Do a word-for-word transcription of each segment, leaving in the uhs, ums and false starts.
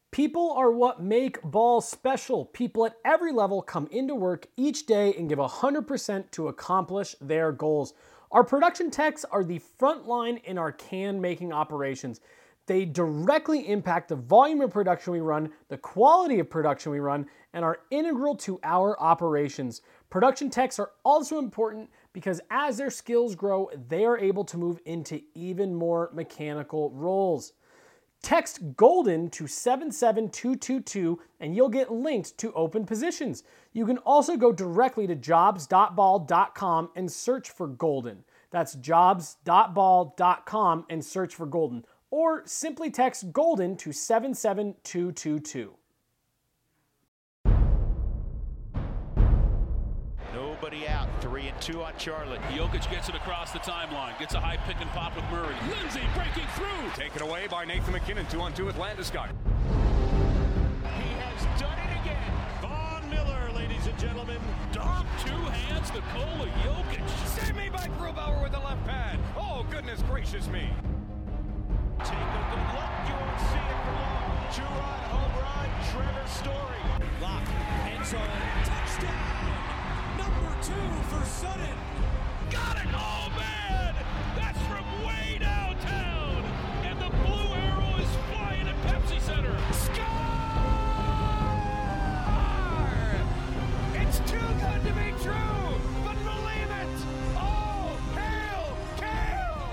People are what make ball special. People at every level come into work each day and give one hundred percent to accomplish their goals. Our production techs are the front line in our can-making operations. They directly impact the volume of production we run, the quality of production we run, and are integral to our operations. Production techs are also important because as their skills grow, they are able to move into even more mechanical roles. Text GOLDEN to seven seven two two two and you'll get linked to open positions. You can also go directly to jobs dot ball dot com and search for Golden. That's jobs dot ball dot com and search for Golden. Or simply text GOLDEN to seven seven two two two. Nobody out. Three and two on Charlotte. Jokic gets it across the timeline. Gets a high pick and pop with Murray. Lindsay breaking through. Taken away by Nathan McKinnon. Two on two with Landeskog. He has done it again. Von Miller, ladies and gentlemen. Dunk two hands to Nikola Jokic. Save me by Grubauer with the left pad. Oh, goodness gracious me. Take a good look. You won't see it for long. Two-run home run. Trevor Story. Lock. End zone. Touchdown. Number two for Sutton. Got it! Oh, man! That's from way downtown! And the blue arrow is flying at Pepsi Center. Score! It's too good to be true, but believe it! Oh, hail, Kale!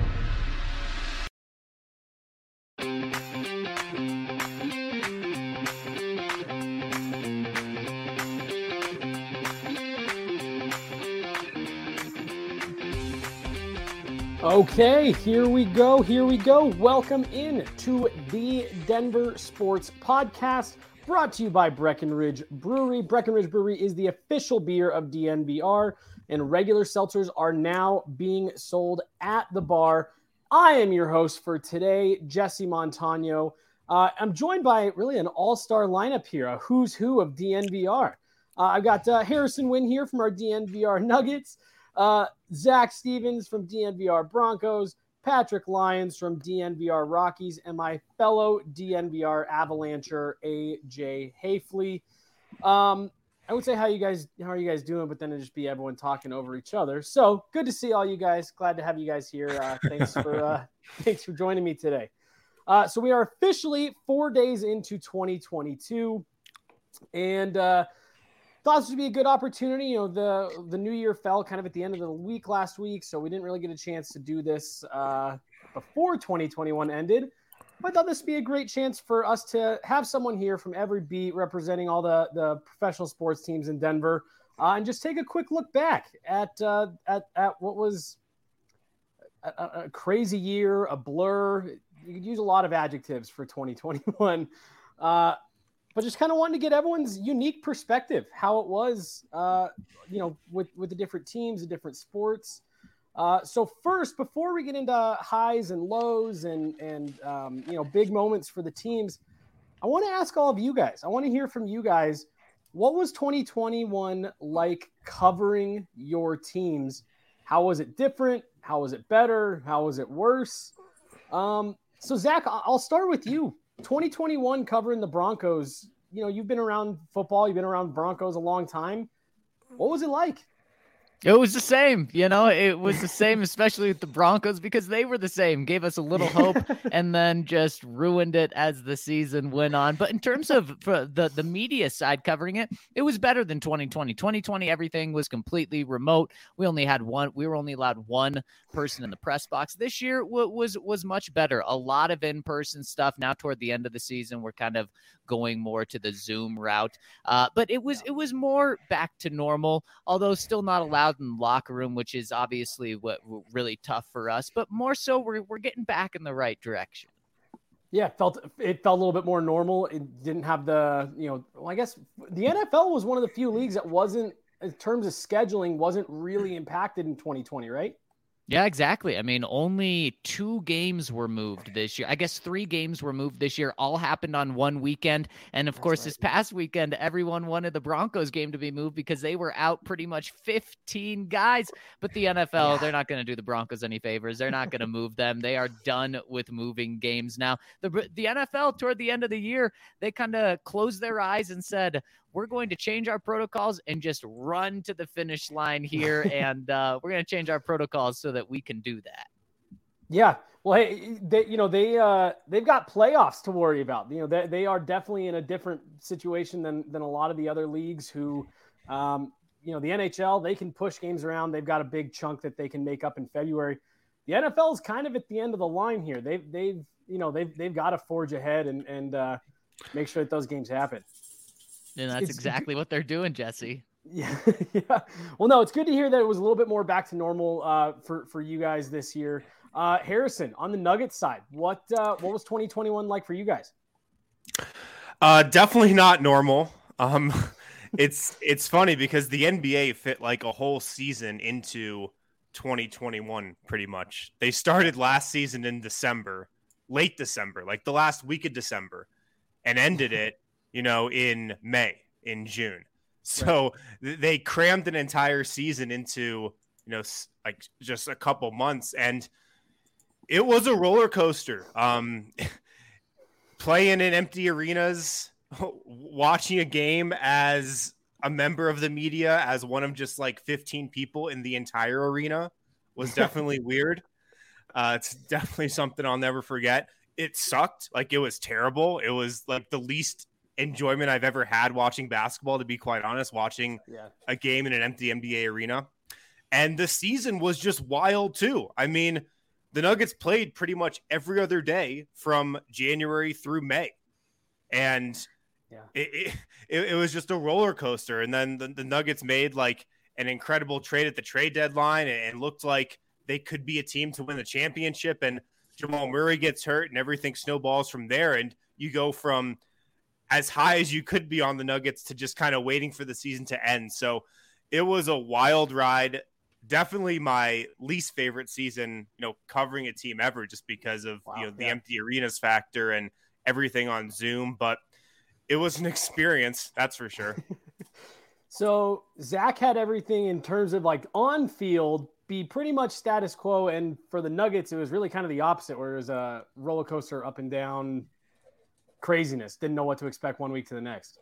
Okay, here we go, here we go. Welcome in to the Denver Sports Podcast, brought to you by Breckenridge Brewery. Breckenridge Brewery is the official beer of D N V R, and regular seltzers are now being sold at the bar. I am your host for today, Jesse Montano. Uh, I'm joined by really an all-star lineup here, a who's who of D N V R. Uh, I've got uh, Harrison Wynn here from our D N V R Nuggets, Uh, Zach Stevens from D N V R Broncos, Patrick Lyons from D N V R Rockies, and my fellow D N V R Avalancher, A J Hafley. Um, I would say how you guys, how are you guys doing? But then it'd just be everyone talking over each other. So good to see all you guys. Glad to have you guys here. Uh, thanks for uh, thanks for joining me today. Uh, so we are officially four days into twenty twenty-two, and uh, thought this would be a good opportunity. You know, the the new year fell kind of at the end of the week last week, so we didn't really get a chance to do this uh, before twenty twenty-one ended. But I thought this would be a great chance for us to have someone here from every beat representing all the, the professional sports teams in Denver uh, and just take a quick look back at uh, at, at what was a, a crazy year, a blur. You could use a lot of adjectives for twenty twenty-one. Uh, But just kind of wanted to get everyone's unique perspective, how it was, uh, you know, with, with the different teams, the different sports. Uh, so first, before we get into highs and lows and, and um, you know, big moments for the teams, I want to ask all of you guys. I want to hear from you guys. What was twenty twenty-one like covering your teams? How was it different? How was it better? How was it worse? Um, so, Zach, I'll start with you. twenty twenty-one covering the Broncos, you know, you've been around football, you've been around Broncos a long time. What was it like? It was the same, you know, it was the same, especially with the Broncos, because they were the same, gave us a little hope and then just ruined it as the season went on. But in terms of for the, the media side covering it, it was better than twenty twenty. twenty twenty, everything was completely remote. We only had one, we were only allowed one person in the press box. This year w- was, was much better. A lot of in-person stuff. Now toward the end of the season, we're kind of going more to the Zoom route. Uh, but it was, it was more back to normal, although still not allowed in the locker room, which is obviously what really tough for us, but more so we're, we're getting back in the right direction. Yeah, it felt it felt a little bit more normal. It didn't have the, you know, well, I guess the N F L was one of the few leagues that wasn't, in terms of scheduling, wasn't really impacted in twenty twenty, right? Yeah, exactly. I mean, only two games were moved this year. I guess three games were moved this year. All happened on one weekend. And of That's course, right. This past weekend, everyone wanted the Broncos game to be moved because they were out pretty much fifteen guys. But the N F L, yeah. They're not going to do the Broncos any favors. They're not going to move them. They are done with moving games now. The, the N F L, toward the end of the year, they kind of closed their eyes and said, we're going to change our protocols and just run to the finish line here. and uh, we're going to change our protocols so that we can do that. Yeah. Well, hey, they, you know, they, uh, they've got playoffs to worry about. You know, they, they are definitely in a different situation than, than a lot of the other leagues who, um, you know, the N H L, they can push games around. They've got a big chunk that they can make up in February. The N F L is kind of at the end of the line here. They've, they've, you know, they've, they've got to forge ahead and, and uh, make sure that those games happen. And that's it's, exactly what they're doing, Jesse. Yeah, yeah. Well, no, it's good to hear that it was a little bit more back to normal uh, for for you guys this year. Uh, Harrison, on the Nuggets side, what uh, what was twenty twenty-one like for you guys? Uh, definitely not normal. Um, it's it's funny because the N B A fit like a whole season into twenty twenty-one. Pretty much, they started last season in December, late December, like the last week of December, and ended it. You know, in May, in June. So right. They crammed an entire season into, you know, like just a couple months. And it was a roller coaster. Um, playing in empty arenas, watching a game as a member of the media, as one of just like fifteen people in the entire arena was definitely weird. Uh, it's definitely something I'll never forget. It sucked. Like, it was terrible. It was like the least enjoyment I've ever had watching basketball, to be quite honest, watching yeah. a game in an empty N B A arena. And the season was just wild too. I mean, the Nuggets played pretty much every other day from January through May. And yeah. it, it, it was just a roller coaster. And then the, the Nuggets made like an incredible trade at the trade deadline and looked like they could be a team to win the championship. And Jamal Murray gets hurt and everything snowballs from there. And you go from as high as you could be on the Nuggets to just kind of waiting for the season to end. So it was a wild ride. Definitely my least favorite season, you know, covering a team ever, just because of, wow, you know, the yeah. empty arenas factor and everything on Zoom. But it was an experience, that's for sure. So Zach had everything in terms of like on field be pretty much status quo. And for the Nuggets, it was really kind of the opposite, where it was a roller coaster up and down craziness. Didn't know what to expect one week to the next.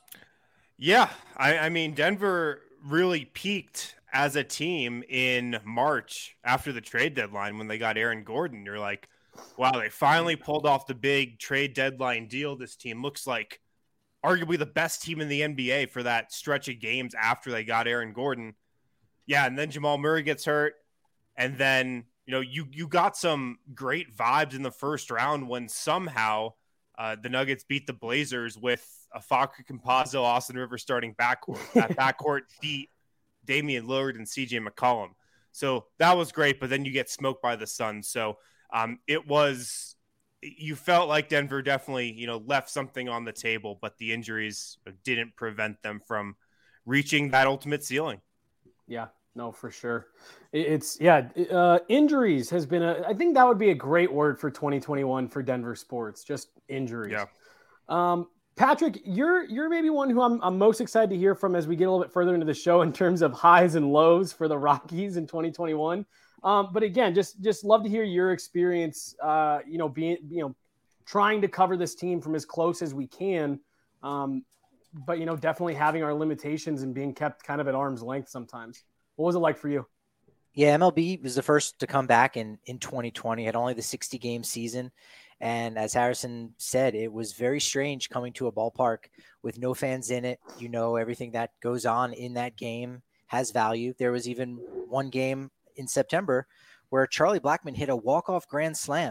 Yeah. I, I mean, Denver really peaked as a team in March after the trade deadline when they got Aaron Gordon. You're like, wow, they finally pulled off the big trade deadline deal. This team looks like arguably the best team in the N B A for that stretch of games after they got Aaron Gordon. Yeah, and then Jamal Murray gets hurt. And then, you know, you you got some great vibes in the first round when somehow uh, the Nuggets beat the Blazers with a Facu Campazzo, Austin Rivers starting backcourt. That backcourt beat Damian Lillard and C J McCollum. So that was great, but then you get smoked by the Suns. So um, it was – you felt like Denver definitely, you know, left something on the table, but the injuries didn't prevent them from reaching that ultimate ceiling. Yeah. No, for sure. It's yeah. Uh, injuries has been a, I think that would be a great word for twenty twenty-one for Denver sports. Just injuries. Yeah. Um, Patrick, you're, you're maybe one who I'm, I'm most excited to hear from as we get a little bit further into the show in terms of highs and lows for the Rockies in twenty twenty-one. Um, but again, just, just love to hear your experience, uh, you know, being, you know, trying to cover this team from as close as we can. Um, but, you know, definitely having our limitations and being kept kind of at arm's length sometimes. What was it like for you? Yeah, M L B was the first to come back in, in twenty twenty, had only the sixty game season. And as Harrison said, it was very strange coming to a ballpark with no fans in it. You know, everything that goes on in that game has value. There was even one game in September where Charlie Blackmon hit a walk-off grand slam.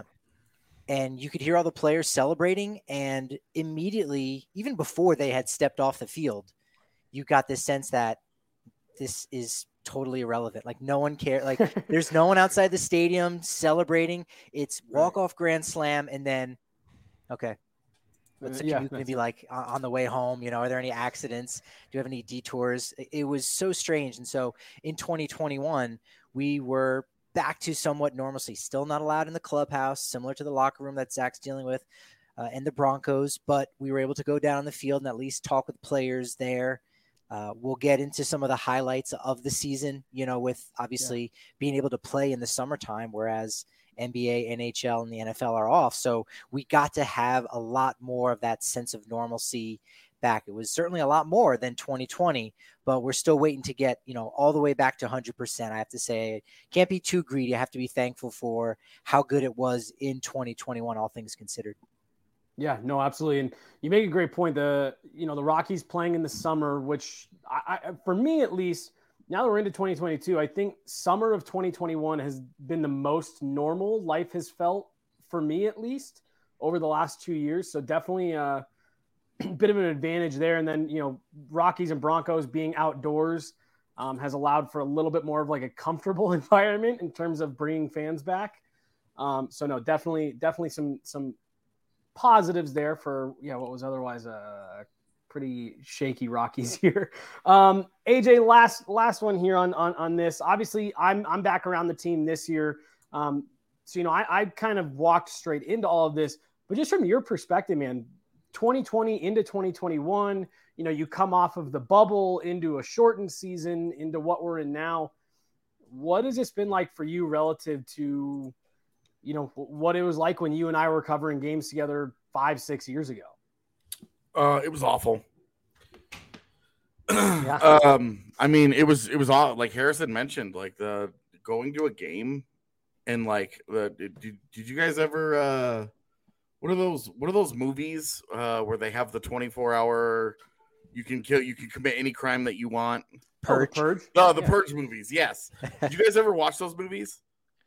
And you could hear all the players celebrating. And immediately, even before they had stepped off the field, you got this sense that this is totally irrelevant. Like no one cares. Like there's no one outside the stadium celebrating. It's walk off grand slam. And then, okay. Let's yeah, you maybe like on the way home, you know, are there any accidents? Do you have any detours? It was so strange. And so in twenty twenty-one, we were back to somewhat normalcy. Still not allowed in the clubhouse, similar to the locker room that Zach's dealing with, uh, and the Broncos, but we were able to go down the field and at least talk with players there. Uh, we'll get into some of the highlights of the season, you know, with obviously yeah. being able to play in the summertime, whereas N B A, N H L, and the N F L are off. So we got to have a lot more of that sense of normalcy back. It was certainly a lot more than twenty twenty, but we're still waiting to get, you know, all the way back to one hundred percent. I have to say, can't be too greedy. I have to be thankful for how good it was in twenty twenty-one, all things considered. Yeah, no, absolutely. And you make a great point. The, you know, the Rockies playing in the summer, which I, I, for me, at least now that we're into twenty twenty-two, I think summer of twenty twenty-one has been the most normal life has felt for me, at least over the last two years. So definitely a bit of an advantage there. And then, you know, Rockies and Broncos being outdoors um, has allowed for a little bit more of like a comfortable environment in terms of bringing fans back. Um, so no, definitely, definitely some, some, positives there for, yeah, what was otherwise a pretty shaky Rockies here. Um, A J, last last one here on on on this. Obviously, I'm I'm back around the team this year. Um, so you know, I, I kind of walked straight into all of this, but just from your perspective, man, twenty twenty into twenty twenty-one, you know, you come off of the bubble into a shortened season into what we're in now. What has this been like for you relative to, you know, what it was like when you and I were covering games together five, six years ago? Uh, it was awful. yeah. Um, I mean, it was, it was all like Harrison mentioned, like the going to a game and like, the, did, did you guys ever, uh, what are those, what are those movies, uh, where they have the twenty-four hour, you can kill, you can commit any crime that you want. Purge. Oh, Purge. No, the yeah. Purge movies. Yes. Did you guys ever watch those movies?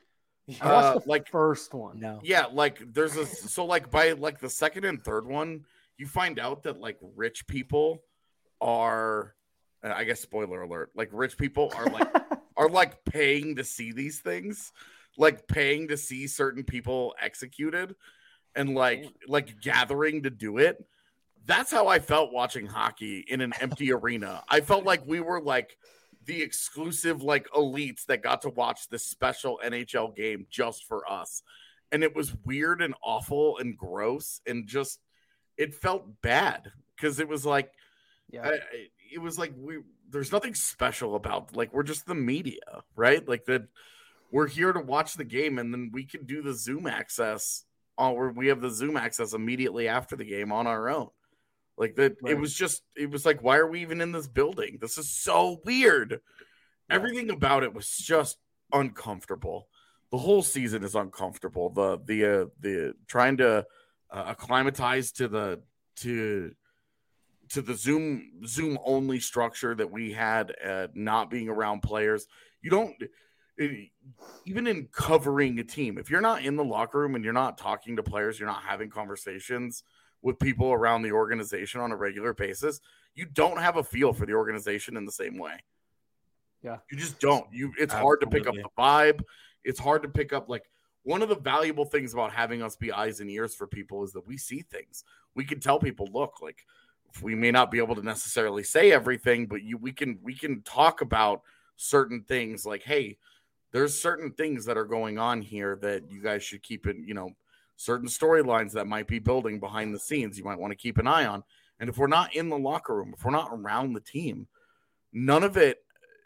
I watched uh, the like first one. No. Yeah, like there's a so like by like the second and third one, you find out that like rich people are, I guess spoiler alert, like rich people are like are like paying to see these things, like paying to see certain people executed, and like Damn. like gathering to do it. That's how I felt watching hockey in an empty arena. I felt like we were like the exclusive like elites that got to watch this special N H L game just for us. And it was weird and awful and gross and just, it felt bad because it was like, yeah, I, it was like, we, there's nothing special about, like, we're just the media, right? Like that we're here to watch the game and then we can do the Zoom access or we have the Zoom access immediately after the game on our own. Like that, right. It was just, it was like, why are we even in this building? This is so weird. Yeah. Everything about it was just uncomfortable. The whole season is uncomfortable. The, the, uh, the trying to uh, acclimatize to the, to, to the Zoom, Zoom only structure that we had, uh, not being around players. You don't, it, even in covering a team, if you're not in the locker room and you're not talking to players, you're not having conversations with people around the organization on a regular basis, you don't have a feel for the organization in the same way. Yeah. You just don't. You it's Absolutely. hard to pick up the vibe. It's hard to pick up, like, one of the valuable things about having us be eyes and ears for people is that we see things. We can tell people, look, like, we may not be able to necessarily say everything, but you we can we can talk about certain things like, hey, there's certain things that are going on here that you guys should keep in, you know, certain storylines that might be building behind the scenes you might want to keep an eye on. And if we're not in the locker room, if we're not around the team, none of it,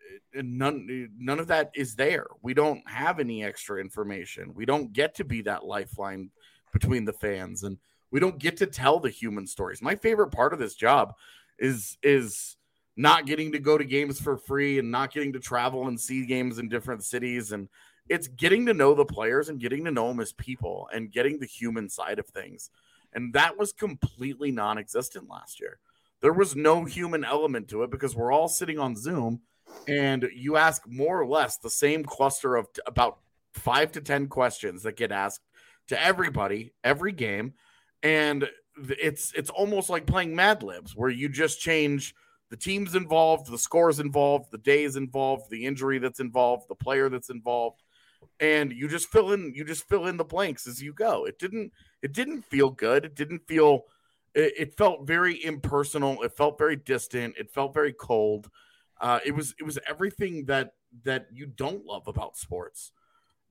none, none of that is there. We don't have any extra information. We don't get to be that lifeline between the fans, and we don't get to tell the human stories. My favorite part of this job is, is not getting to go to games for free and not getting to travel and see games in different cities. And it's getting to know the players and getting to know them as people and getting the human side of things. And that was completely non-existent last year. There was no human element to it because we're all sitting on Zoom and you ask more or less the same cluster of t- about five to ten questions that get asked to everybody, every game. And it's, it's almost like playing Mad Libs where you just change the teams involved, the scores involved, the days involved, the injury that's involved, the player that's involved. And you just fill in, you just fill in the blanks as you go. It didn't, it didn't feel good. It didn't feel, it, it felt very impersonal. It felt very distant. It felt very cold. Uh, it was, it was everything that, that you don't love about sports.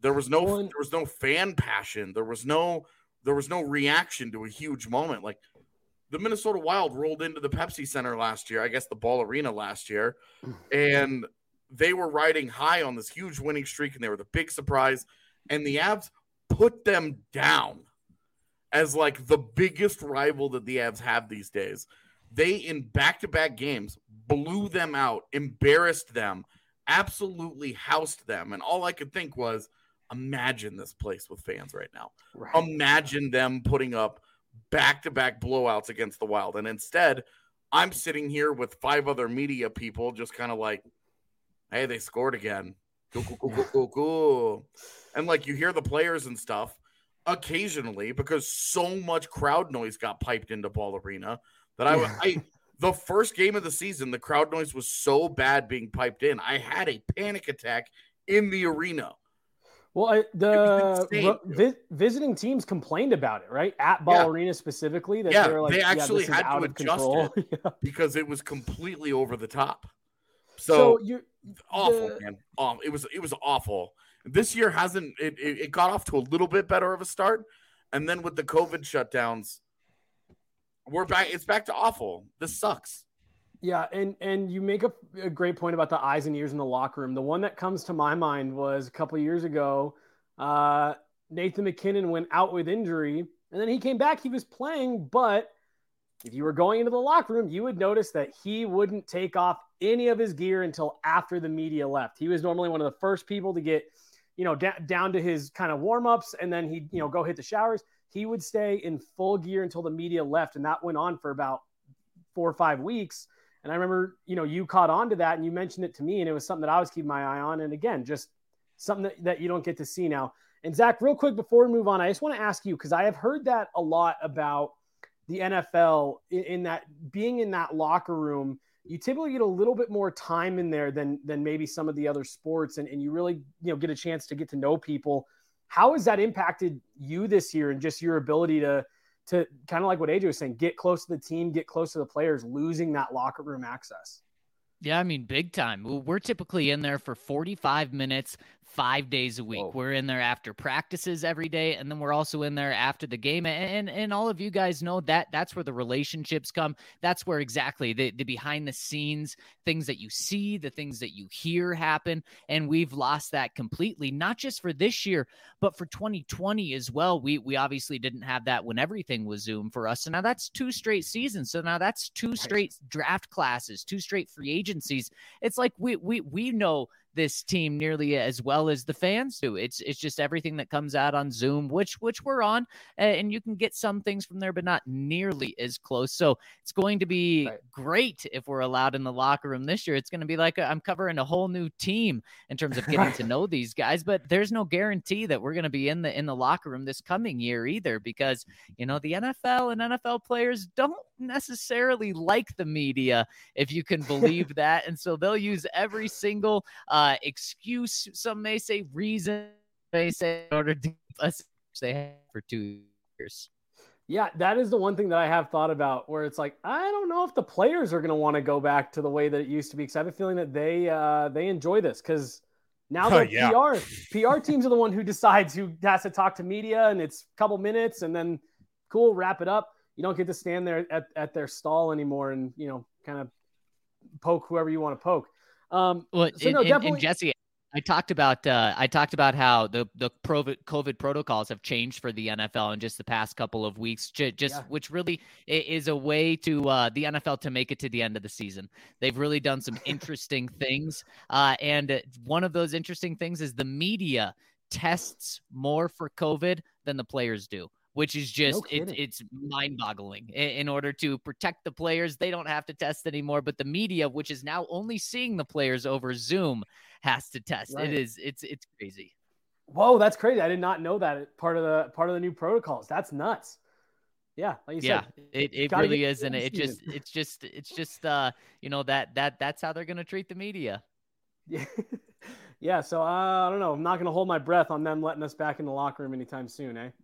There was no there was no fan passion. There was no there was no reaction to a huge moment. Like the Minnesota Wild rolled into the Pepsi Center last year, I guess the Ball Arena last year, and they were riding high on this huge winning streak, and they were the big surprise. And the Avs put them down as like the biggest rival that the Avs have these days. They, in back-to-back games, blew them out, embarrassed them, absolutely housed them. And all I could think was, imagine this place with fans right now. Right. Imagine them putting up back-to-back blowouts against the Wild. And instead, I'm sitting here with five other media people just kind of like, hey, they scored again. Cool, cool, cool, cool, cool, cool. And like you hear the players and stuff occasionally because so much crowd noise got piped into Ball Arena that I, I the first game of the season, the crowd noise was so bad being piped in. I had a panic attack in the arena. Well, I, the vi- visiting teams complained about it, right? At Ball yeah. Arena specifically. That yeah, they, were like, they actually yeah, had to adjust control. it yeah. because it was completely over the top. So, so you're, awful, the... man. Um, it was it was awful. This year hasn't it, it? It got off to a little bit better of a start, and then with the COVID shutdowns, we're back. It's back to awful. This sucks. Yeah, and and you make a, a great point about the eyes and ears in the locker room. The one that comes to my mind was a couple of years ago. Uh, Nathan MacKinnon went out with injury, and then he came back. He was playing, but if you were going into the locker room, you would notice that he wouldn't take off any of his gear until after the media left. He was normally one of the first people to get, you know, da- down to his kind of warm-ups, and then he'd, you know, go hit the showers. He would stay in full gear until the media left, and that went on for about four or five weeks. And I remember, you know, you caught on to that and you mentioned it to me, and it was something that I was keeping my eye on. And again, just something that, that you don't get to see now. And Zach, real quick before we move on, I just want to ask you, because I have heard that a lot about the N F L in, in that being in that locker room, you typically get a little bit more time in there than, than maybe some of the other sports. And, and you really, you know, get a chance to get to know people. How has that impacted you this year and just your ability to, to kind of like what A J was saying, get close to the team, get close to the players, losing that locker room access? Yeah, I mean, big time. We're typically in there for forty-five minutes, five days a week. Whoa. We're in there after practices every day, and then we're also in there after the game. And and all of you guys know that that's where the relationships come. That's where exactly the, the behind-the-scenes things that you see, the things that you hear happen, and we've lost that completely, not just for this year, but for twenty twenty as well. We we obviously didn't have that when everything was Zoom for us, so now that's two straight seasons. So now that's two straight draft classes, two straight free agencies. It's like we we we know this team nearly as well as the fans do. It's it's just everything that comes out on Zoom, which which we're on, and you can get some things from there, but not nearly as close. So it's going to be right. great if we're allowed in the locker room this year. It's going to be like a, I'm covering a whole new team in terms of getting to know these guys, but there's no guarantee that we're going to be in the in the locker room this coming year either, because you know the N F L and N F L players don't necessarily like the media, if you can believe that, and so they'll use every single uh, excuse, some may say reason, they say in order to keep us they have for two years. Yeah, that is the one thing that I have thought about, where it's like, I don't know if the players are going to want to go back to the way that it used to be, because I have a feeling that they uh, they enjoy this, because now the oh, yeah. P R P R teams are the one who decides who has to talk to media, and it's a couple minutes, and then cool, wrap it up. You don't get to stand there at, at their stall anymore and, you know, kind of poke whoever you want to poke. Um, well, so and, no, and, definitely... and Jesse, I talked about uh, I talked about how the the COVID protocols have changed for the N F L in just the past couple of weeks, just yeah. which really is a way to uh, the N F L to make it to the end of the season. They've really done some interesting things, uh, and one of those interesting things is the media tests more for COVID than the players do, which is just, no it, it's mind-boggling. In, in order to protect the players, they don't have to test anymore, but the media, which is now only seeing the players over Zoom, has to test. Right. It is, it's it's crazy. Whoa, that's crazy. I did not know that part of the part of the new protocols. That's nuts. Yeah, like you yeah, said, it, it really is, and it just it's just it's just uh you know that that that's how they're gonna treat the media. Yeah, yeah. So uh, I don't know. I'm not gonna hold my breath on them letting us back in the locker room anytime soon, eh?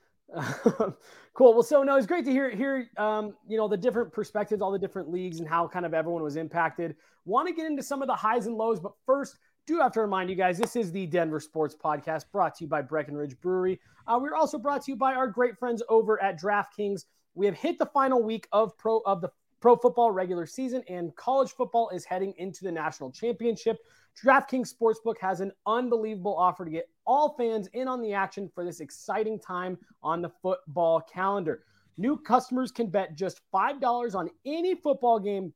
Cool. Well, so no, it's great to hear, hear, um, you know, the different perspectives, all the different leagues and how kind of everyone was impacted. Want to get into some of the highs and lows, but first, Do have to remind you guys, this is the Denver Sports Podcast brought to you by Breckenridge Brewery. Uh, we're also brought to you by our great friends over at DraftKings. We have hit the final week of pro of the pro football regular season, and college football is heading into the national championship. DraftKings Sportsbook has an unbelievable offer to get all fans in on the action for this exciting time on the football calendar. New customers can bet just five dollars on any football game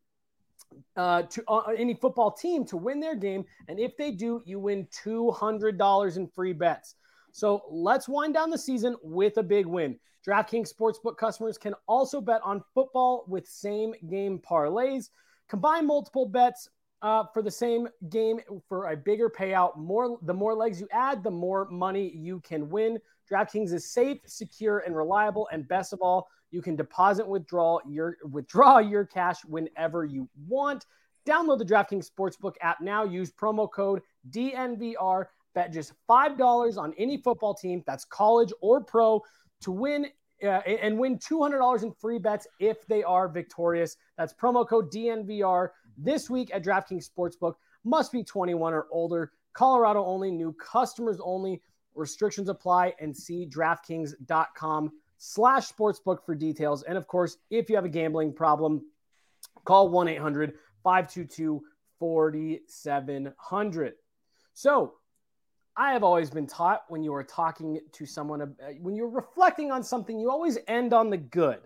Uh, to uh, any football team to win their game. And if they do, you win two hundred dollars in free bets. So let's wind down the season with a big win. DraftKings Sportsbook customers can also bet on football with same game parlays. Combine multiple bets uh, for the same game for a bigger payout. More, the more legs you add, the more money you can win. DraftKings is safe, secure, and reliable. And best of all, you can deposit, withdraw your withdraw your cash whenever you want. Download the DraftKings Sportsbook app now. Use promo code D N V R. Bet just five dollars on any football team, that's college or pro, to win uh, and win two hundred dollars in free bets if they are victorious. That's promo code D N V R this week at DraftKings Sportsbook. Must be twenty-one or older. Colorado only. New customers only. Restrictions apply, and see DraftKings.com slash sportsbook for details. And of course, if you have a gambling problem, call one eight hundred five two two four seven zero zero. So I have always been taught when you are talking to someone, uh, when you're reflecting on something, you always end on the good.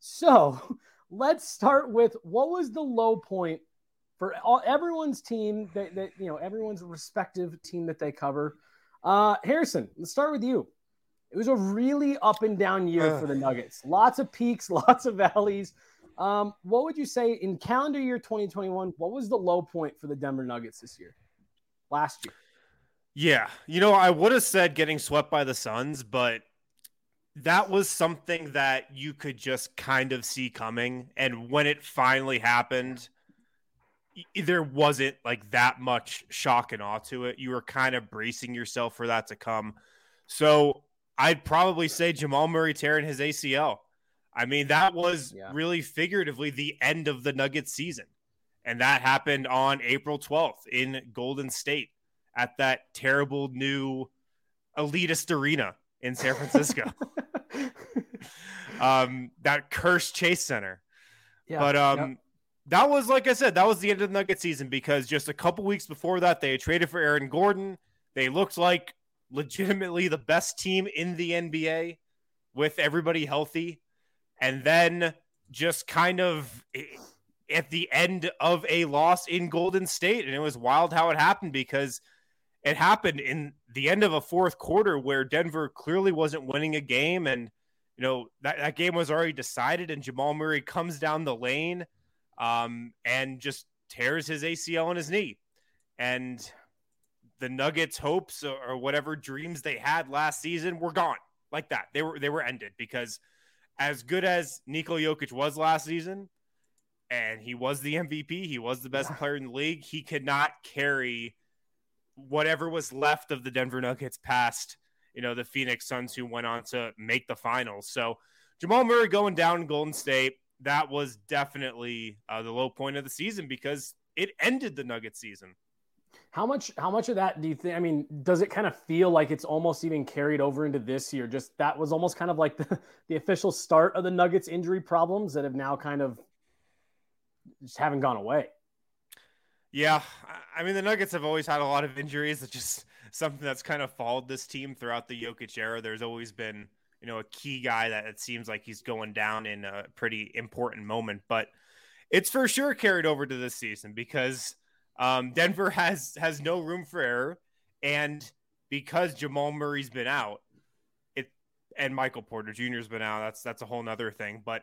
So let's start with, what was the low point for all, everyone's team that, that, you know, everyone's respective team that they cover. Uh, Harrison, let's start with you. It was a really up and down year uh, for the Nuggets. Lots of peaks, lots of valleys. Um, what would you say in calendar year twenty twenty-one? What was the low point for the Denver Nuggets this year? Last year? Yeah. You know, I would have said getting swept by the Suns, but that was something that you could just kind of see coming. And when it finally happened, there wasn't like that much shock and awe to it. You were kind of bracing yourself for that to come. So I'd probably say Jamal Murray tearing his A C L. I mean, that was yeah. really figuratively the end of the Nuggets season. And that happened on April twelfth in Golden State at that terrible new elitist arena in San Francisco. um, that cursed Chase Center. Yeah, but um, yep. that was, like I said, that was the end of the Nuggets season, because just a couple weeks before that, they had traded for Aaron Gordon. They looked like legitimately the best team in the N B A with everybody healthy. And then just kind of at the end of a loss in Golden State. And it was wild how it happened, because it happened in the end of a fourth quarter where Denver clearly wasn't winning a game. And, you know, that, that game was already decided, and Jamal Murray comes down the lane um, and just tears his A C L on his knee. And the Nuggets' hopes or, or whatever dreams they had last season were gone like that. They were, they were ended, because as good as Nikola Jokic was last season, and he was the M V P, he was the best player in the league, he could not carry whatever was left of the Denver Nuggets past, you know, the Phoenix Suns, who went on to make the finals. So Jamal Murray going down in Golden State, that was definitely uh, the low point of the season, because it ended the Nuggets season. How much, how much of that do you think, I mean, does it kind of feel like it's almost even carried over into this year? Just that was almost kind of like the, the official start of the Nuggets injury problems that have now kind of just haven't gone away. Yeah. I mean, the Nuggets have always had a lot of injuries. It's just something that's kind of followed this team throughout the Jokic era. There's always been, you know, a key guy that it seems like he's going down in a pretty important moment, but it's for sure carried over to this season, because Um, Denver has has no room for error, and because Jamal Murray's been out, it and Michael Porter Junior's been out. That's that's a whole nother thing. But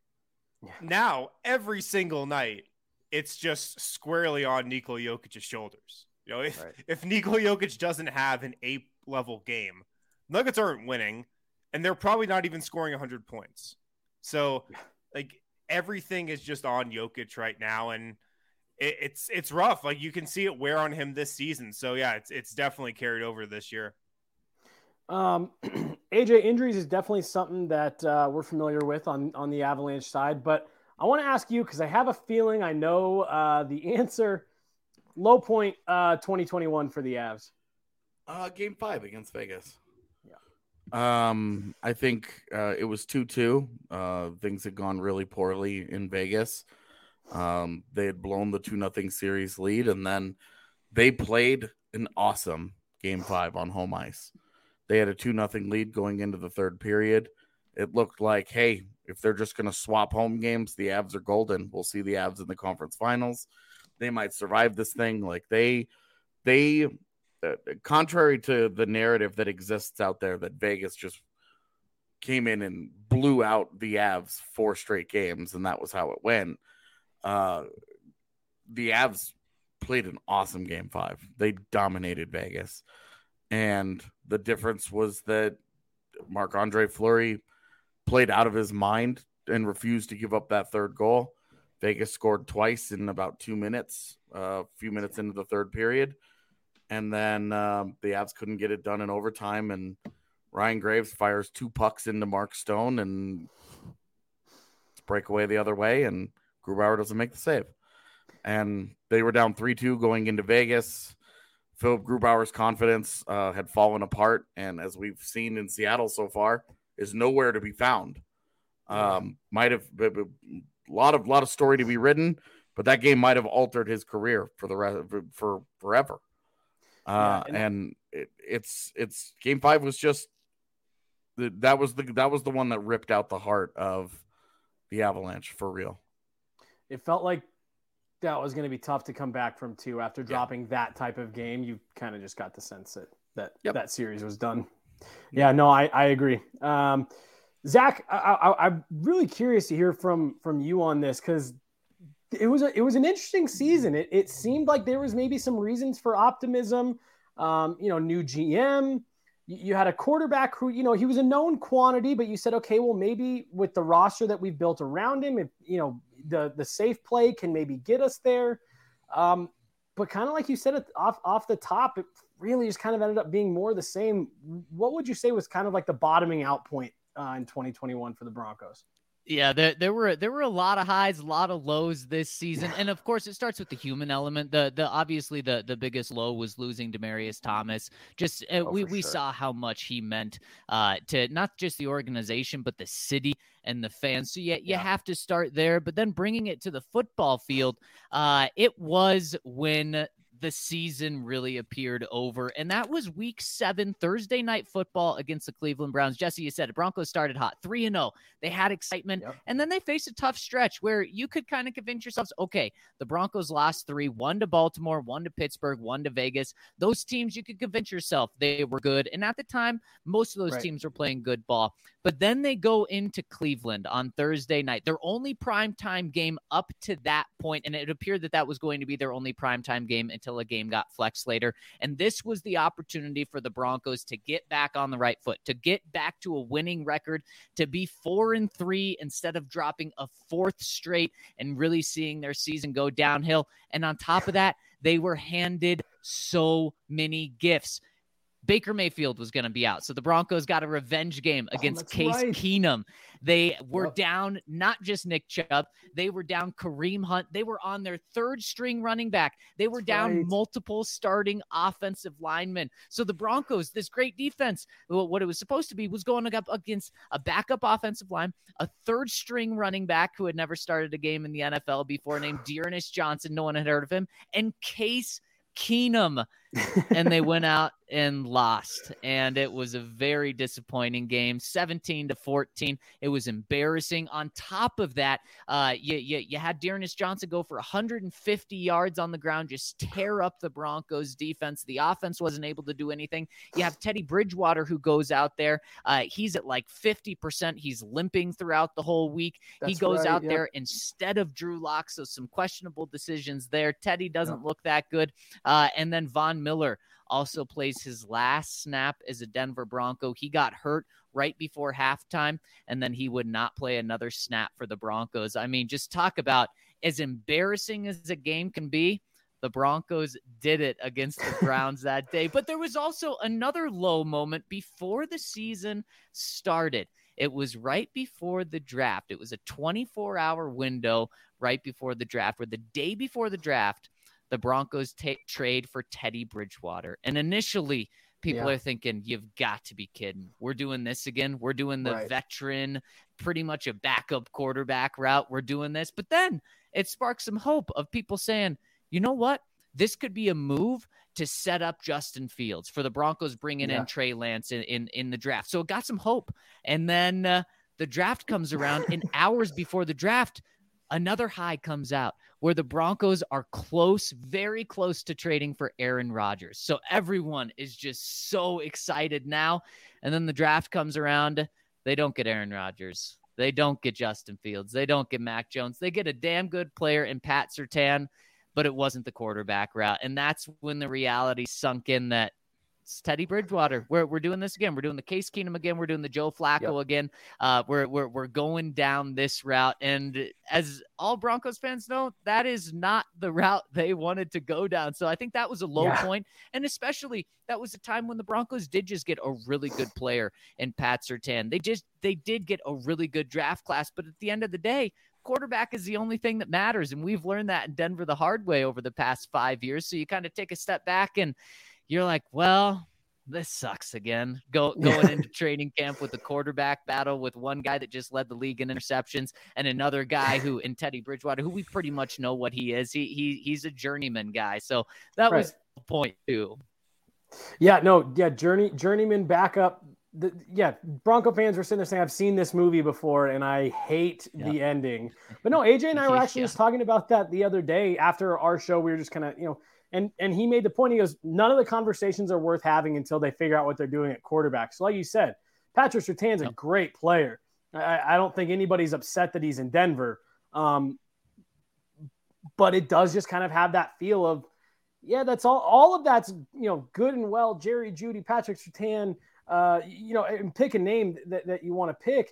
now every single night, it's just squarely on Nikola Jokic's shoulders. You know, if right. if Nikola Jokic doesn't have an eight level game, Nuggets aren't winning, and they're probably not even scoring one hundred points. So, like, everything is just on Jokic right now, and It, it's it's rough. Like, you can see it wear on him this season. So yeah, it's it's definitely carried over this year. Um, A J, injuries is definitely something that uh, we're familiar with on on the Avalanche side. But I want to ask you, because I have a feeling I know uh, the answer. Low point uh, twenty twenty-one for the Avs. Uh, game five against Vegas. Yeah. Um, I think uh, it was two two. Uh, things had gone really poorly in Vegas. Um, they had blown the two nothing series lead, and then they played an awesome game five on home ice. They had a two nothing lead going into the third period. It looked like, hey, if they're just going to swap home games, the Avs are golden. We'll see the Avs in the conference finals. They might survive this thing. Like they, they, uh, contrary to the narrative that exists out there that Vegas just came in and blew out the Avs four straight games, and that was how it went. Uh, the Avs played an awesome game five. They dominated Vegas. And the difference was that Marc-Andre Fleury played out of his mind and refused to give up that third goal. Vegas scored twice in about two minutes, uh, a few minutes into the third period. And then um, the Avs couldn't get it done in overtime. And Ryan Graves fires two pucks into Mark Stone and break away the other way. And Grubauer doesn't make the save. And they were down three two going into Vegas. Philip Grubauer's confidence uh, had fallen apart. And as we've seen in Seattle so far, is nowhere to be found. Um, might have a lot of lot of story to be written, but that game might have altered his career for the rest for forever. Uh, yeah, and and it, it's it's game five was just the, that was the that was the one that ripped out the heart of the Avalanche for real. It felt like that was going to be tough to come back from two after dropping yeah. that type of game. You kind of just got the sense that that yep. that series was done. Yeah, no, I, I agree. Um, Zach, I, I, I'm really curious to hear from from you on this because it was a, it was an interesting season. It it seemed like there was maybe some reasons for optimism. Um, you know, new G M. You, you had a quarterback who, you know, he was a known quantity, but you said, okay, well, maybe with the roster that we've built around him, if you know the the safe play can maybe get us there. Um, but kind of like you said it off off the top, it really just kind of ended up being more the same. What would you say was kind of like the bottoming out point uh, in twenty twenty-one for the Broncos? Yeah, there there were there were a lot of highs, a lot of lows this season, and of course it starts with the human element. The the obviously the the biggest low was losing Demaryius Thomas. Just uh, oh, we we sure. saw how much he meant uh, to not just the organization but the city and the fans. So yeah, you yeah. have to start there, but then bringing it to the football field, uh, it was when the season really appeared over. And that was week seven, Thursday night football against the Cleveland Browns. Jesse, you said it. Broncos started hot, three and oh. They had excitement. Yep. And then they faced a tough stretch where you could kind of convince yourselves, okay, the Broncos lost three, one to Baltimore, one to Pittsburgh, one to Vegas. Those teams, you could convince yourself they were good. And at the time, most of those right. teams were playing good ball. But then they go into Cleveland on Thursday night, their only primetime game up to that point, and it appeared that that was going to be their only primetime game until a game got flexed later. And this was the opportunity for the Broncos to get back on the right foot, to get back to a winning record, to be four and three instead of dropping a fourth straight and really seeing their season go downhill. And on top of that, they were handed so many gifts. Baker Mayfield was going to be out. So the Broncos got a revenge game against oh, Case right. Keenum. They were yep. down not just Nick Chubb. They were down Kareem Hunt. They were on their third string running back. They were That's down right. multiple starting offensive linemen. So the Broncos, this great defense, what it was supposed to be was going up against a backup offensive line, a third string running back who had never started a game in the N F L before named Dearness Johnson. No one had heard of him. And Case Keenum. And they went out and lost. And it was a very disappointing game, seventeen to fourteen. It was embarrassing. On top of that, uh, you, you, you had Dearness Johnson go for one hundred fifty yards on the ground, just tear up the Broncos defense. The offense wasn't able to do anything. You have Teddy Bridgewater who goes out there. Uh, he's at like fifty percent. He's limping throughout the whole week. That's he goes right, out yep. there instead of Drew Lock. So some questionable decisions there. Teddy doesn't yep. look that good. Uh, and then Von Miller also plays his last snap as a Denver Bronco. He got hurt right before halftime, and then he would not play another snap for the Broncos. I mean, just talk about as embarrassing as a game can be. The Broncos did it against the Browns that day. But there was also another low moment before the season started. It was right before the draft. It was a twenty-four hour window right before the draft, where the day before the draft, the Broncos take trade for Teddy Bridgewater. And initially, people Yeah. are thinking, you've got to be kidding. We're doing this again. We're doing the Right. veteran, pretty much a backup quarterback route. We're doing this. But then it sparked some hope of people saying, you know what? This could be a move to set up Justin Fields for the Broncos bringing Yeah. in Trey Lance in, in, in the draft. So it got some hope. And then uh, the draft comes around, and hours before the draft, another high comes out where the Broncos are close, very close to trading for Aaron Rodgers. So everyone is just so excited now. And then the draft comes around. They don't get Aaron Rodgers. They don't get Justin Fields. They don't get Mac Jones. They get a damn good player in Pat Surtain, but it wasn't the quarterback route. And that's when the reality sunk in that it's Teddy Bridgewater. We're we're doing this again. We're doing the Case Keenum again. We're doing the Joe Flacco Yep. again. Uh, we're we're we're going down this route. And as all Broncos fans know, that is not the route they wanted to go down. So I think that was a low Yeah. point. And especially that was a time when the Broncos did just get a really good player in Pat Surtain. They just they did get a really good draft class. But at the end of the day, quarterback is the only thing that matters. And we've learned that in Denver the hard way over the past five years. So you kind of take a step back and you're like, well, this sucks again. Go going into training camp with the quarterback battle with one guy that just led the league in interceptions and another guy who in Teddy Bridgewater, who we pretty much know what he is. He he he's a journeyman guy. So that Right. was the point too. Yeah, no, yeah, journey journeyman backup. The, yeah, Bronco fans were sitting there saying, I've seen this movie before and I hate Yeah. the ending. But no, A J and I were actually Yeah. just talking about that the other day after our show. We were just kind of, you know, and and he made the point. He goes, none of the conversations are worth having until they figure out what they're doing at quarterback. So like you said, Patrick Surtain's a Yep. great player. I, I don't think anybody's upset that he's in Denver. Um, but it does just kind of have that feel of, yeah, that's all. All of that's, you know, good and well. Jerry Jeudy, Patrick Surtain, uh, you know, and pick a name that, that you want to pick.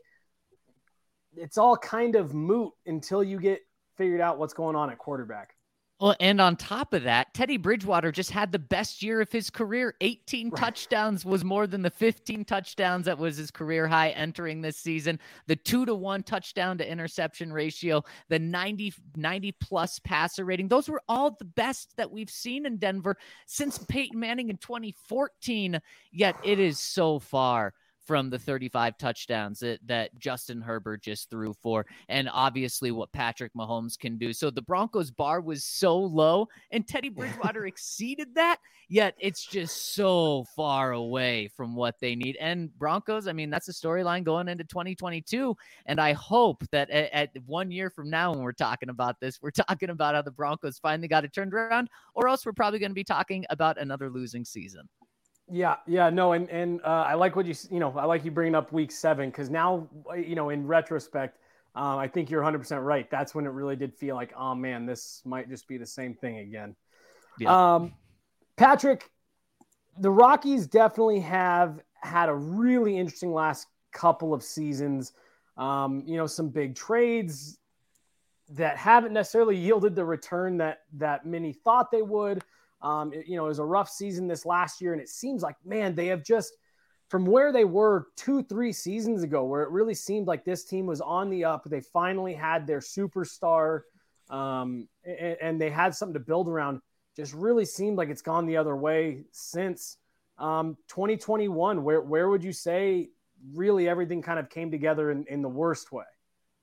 It's all kind of moot until you get figured out what's going on at quarterback. Well, and on top of that, Teddy Bridgewater just had the best year of his career. eighteen Right. touchdowns was more than the fifteen touchdowns that was his career high entering this season. The two to one touchdown to interception ratio, the ninety, ninety plus passer rating. Those were all the best that we've seen in Denver since Peyton Manning in twenty fourteen. Yet it is so far from the thirty-five touchdowns that, that Justin Herbert just threw for, and obviously what Patrick Mahomes can do. So the Broncos bar was so low, and Teddy Bridgewater exceeded that, yet it's just so far away from what they need. And Broncos, I mean, that's a storyline going into twenty twenty-two, and I hope that at, at one year from now when we're talking about this, we're talking about how the Broncos finally got it turned around, or else we're probably going to be talking about another losing season. Yeah, yeah, no, and and uh, I like what you you know I like you bringing up week seven because now you know in retrospect, uh, I think you're one hundred percent right. That's when it really did feel like, oh man, this might just be the same thing again. Yeah. Um, Patrick, the Rockies definitely have had a really interesting last couple of seasons. Um, you know, some big trades that haven't necessarily yielded the return that that many thought they would. Um, it, you know, it was a rough season this last year, and it seems like, man, they have just, from where they were two, three seasons ago, where it really seemed like this team was on the up. They finally had their superstar, um, and, and they had something to build around. Just really seemed like it's gone the other way since um, twenty twenty-one. Where where would you say really everything kind of came together in, in the worst way?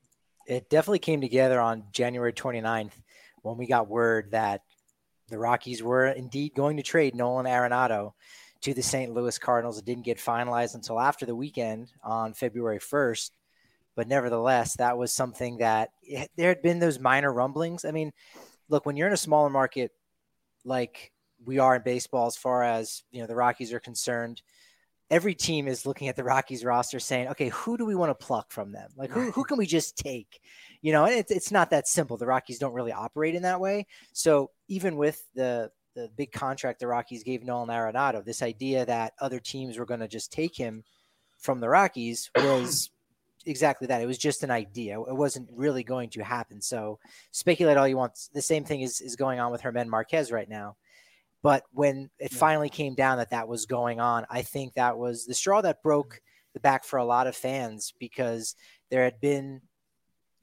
It definitely came together on January twenty-ninth when we got word that the Rockies were indeed going to trade Nolan Arenado to the Saint Louis Cardinals. It didn't get finalized until after the weekend on February first. But nevertheless, that was something that it, there had been those minor rumblings. I mean, look, when you're in a smaller market like we are in baseball, as far as, you know, the Rockies are concerned, every team is looking at the Rockies roster saying, okay, who do we want to pluck from them? Like, who, who can we just take? You know, and it's, it's not that simple. The Rockies don't really operate in that way. So even with the, the big contract the Rockies gave Nolan Arenado, this idea that other teams were going to just take him from the Rockies was exactly that. It was just an idea. It wasn't really going to happen. So speculate all you want. The same thing is, is going on with Germán Marquez right now. But when it finally came down that that was going on, I think that was the straw that broke the back for a lot of fans, because there had been,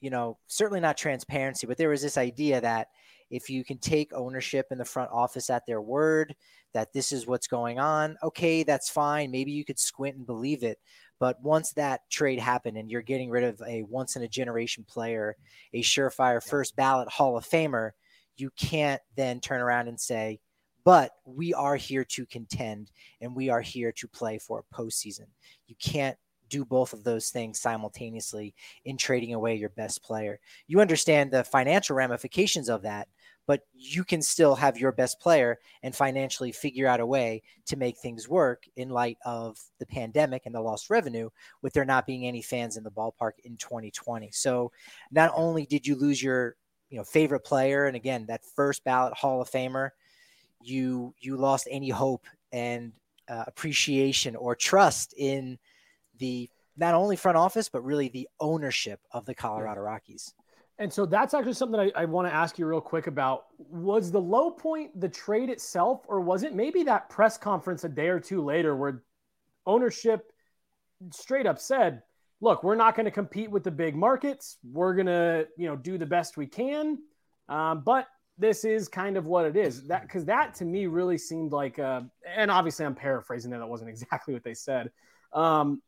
you know, certainly not transparency, but there was this idea that if you can take ownership in the front office at their word, that this is what's going on, okay, that's fine. Maybe you could squint and believe it. But once that trade happened and you're getting rid of a once in a generation player, a surefire first ballot Hall of Famer, you can't then turn around and say, but we are here to contend and we are here to play for a postseason. You can't do both of those things simultaneously in trading away your best player. You understand the financial ramifications of that, but you can still have your best player and financially figure out a way to make things work in light of the pandemic and the lost revenue with there not being any fans in the ballpark in twenty twenty. So not only did you lose your, you know, favorite player, and again, that first ballot Hall of Famer, you, you lost any hope and uh, appreciation or trust in the, not only front office, but really the ownership of the Colorado Rockies. And so that's actually something I, I want to ask you real quick about. Was the low point the trade itself, or was it maybe that press conference a day or two later where ownership straight up said, look, we're not going to compete with the big markets. We're going to, you know, do the best we can. Um, but this is kind of what it is. That, because that to me really seemed like, uh, and obviously I'm paraphrasing that. That wasn't exactly what they said. Um,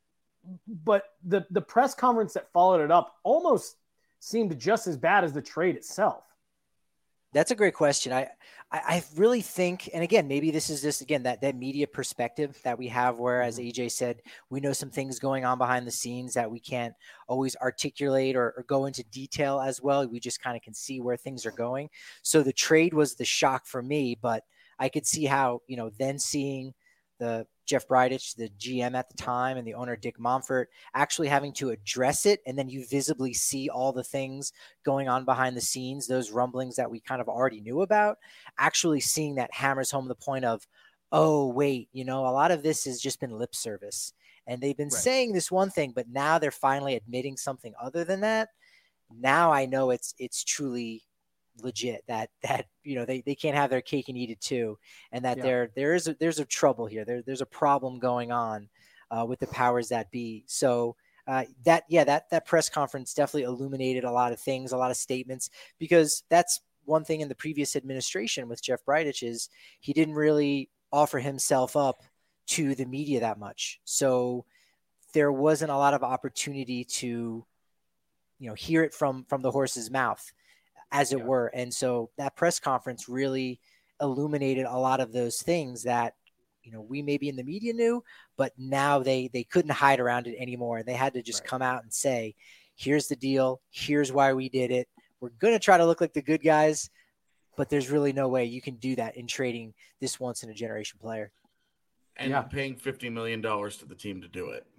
but the, the press conference that followed it up almost seemed just as bad as the trade itself. That's a great question. I, I, I really think, and again, maybe this is just, again, that, that media perspective that we have, where, as A J said, we know some things going on behind the scenes that we can't always articulate or, or go into detail as well. We just kind of can see where things are going. So the trade was the shock for me, but I could see how, you know, then seeing the Jeff Bridich, the G M at the time, and the owner Dick Monfort actually having to address it. And then you visibly see all the things going on behind the scenes, those rumblings that we kind of already knew about, actually seeing that hammers home the point of, oh, wait, you know, a lot of this has just been lip service. And they've been right. saying this one thing, but now they're finally admitting something other than that. Now I know it's, it's truly legit that, that, you know, they, they can't have their cake and eat it too. And that yeah. there, there is, a, there's a trouble here. There, there's a problem going on uh, with the powers that be. So uh, that, yeah, that, that press conference definitely illuminated a lot of things, a lot of statements, because that's one thing in the previous administration with Jeff Bridich is he didn't really offer himself up to the media that much. So there wasn't a lot of opportunity to, you know, hear it from, from the horse's mouth, as it yeah. were. And so that press conference really illuminated a lot of those things that, you know, we maybe in the media knew, but now they, they couldn't hide around it anymore. And they had to just right. come out and say, here's the deal. Here's why we did it. We're going to try to look like the good guys, but there's really no way you can do that in trading this once in a generation player. And yeah. paying fifty million dollars to the team to do it.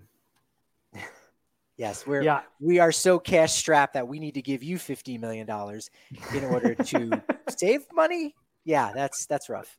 Yes, we're yeah. we are so cash strapped that we need to give you fifty million dollars in order to save money. Yeah, that's that's rough.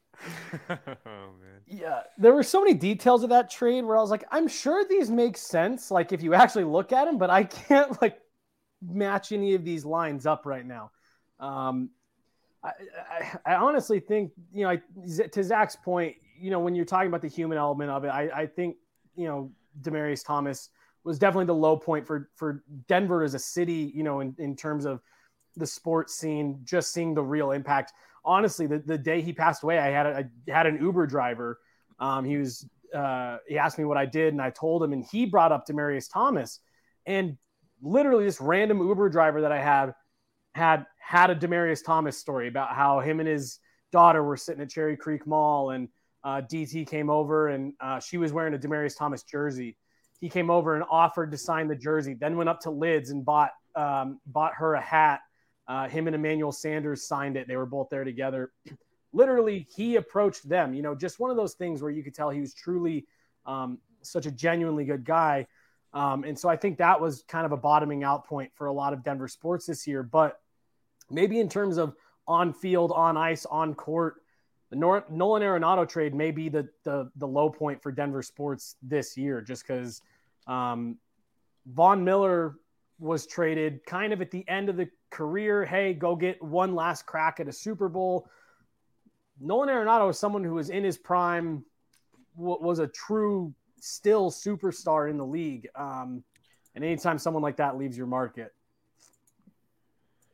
Oh man. Yeah, there were so many details of that trade where I was like, I'm sure these make sense, like if you actually look at them, but I can't like match any of these lines up right now. Um, I, I, I honestly think, you know, I, to Zach's point, you know, when you're talking about the human element of it, I, I think, you know, Demaryius Thomas was definitely the low point for, for Denver as a city, you know, in, in terms of the sports scene, just seeing the real impact. Honestly, the, the day he passed away, I had a, I had an Uber driver. Um, he was, uh, he asked me what I did and I told him, and he brought up Demaryius Thomas, and literally this random Uber driver that I had had, had a Demaryius Thomas story about how him and his daughter were sitting at Cherry Creek Mall, and uh, D T came over and uh, she was wearing a Demaryius Thomas jersey. He came over and offered to sign the jersey, then went up to Lids and bought um, bought her a hat. Uh, him and Emmanuel Sanders signed it. They were both there together. Literally, he approached them. You know, just one of those things where you could tell he was truly um, such a genuinely good guy. Um, and so I think that was kind of a bottoming out point for a lot of Denver sports this year. But maybe in terms of on field, on ice, on court, the Nor- Nolan Arenado trade may be the, the the low point for Denver sports this year, just because um, Von Miller was traded kind of at the end of the career. Hey, go get one last crack at a Super Bowl. Nolan Arenado is someone who was in his prime, w- was a true still superstar in the league. Um, and anytime someone like that leaves your market,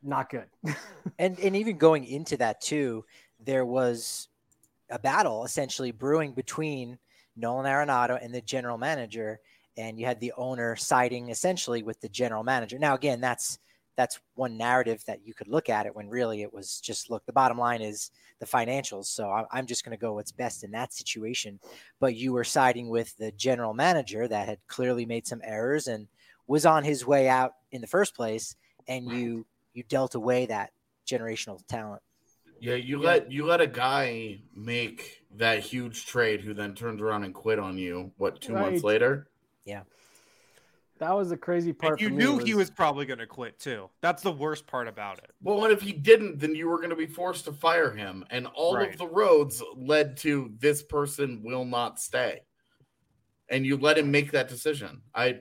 not good. and and even going into that too, there was a battle essentially brewing between Nolan Arenado and the general manager, and you had the owner siding essentially with the general manager. Now, again, that's that's one narrative that you could look at it when really it was just, look, the bottom line is the financials. So I, I'm just going to go what's best in that situation. But you were siding with the general manager that had clearly made some errors and was on his way out in the first place, and you you dealt away that generational talent. Yeah, you let you let a guy make that huge trade who then turns around and quit on you, what, two Right. months later? Yeah. That was the crazy part. And you for me knew was, he was probably going to quit too. That's the worst part about it. Well, and if he didn't, then you were going to be forced to fire him. And all Right. of the roads led to this person will not stay. And you let him make that decision. I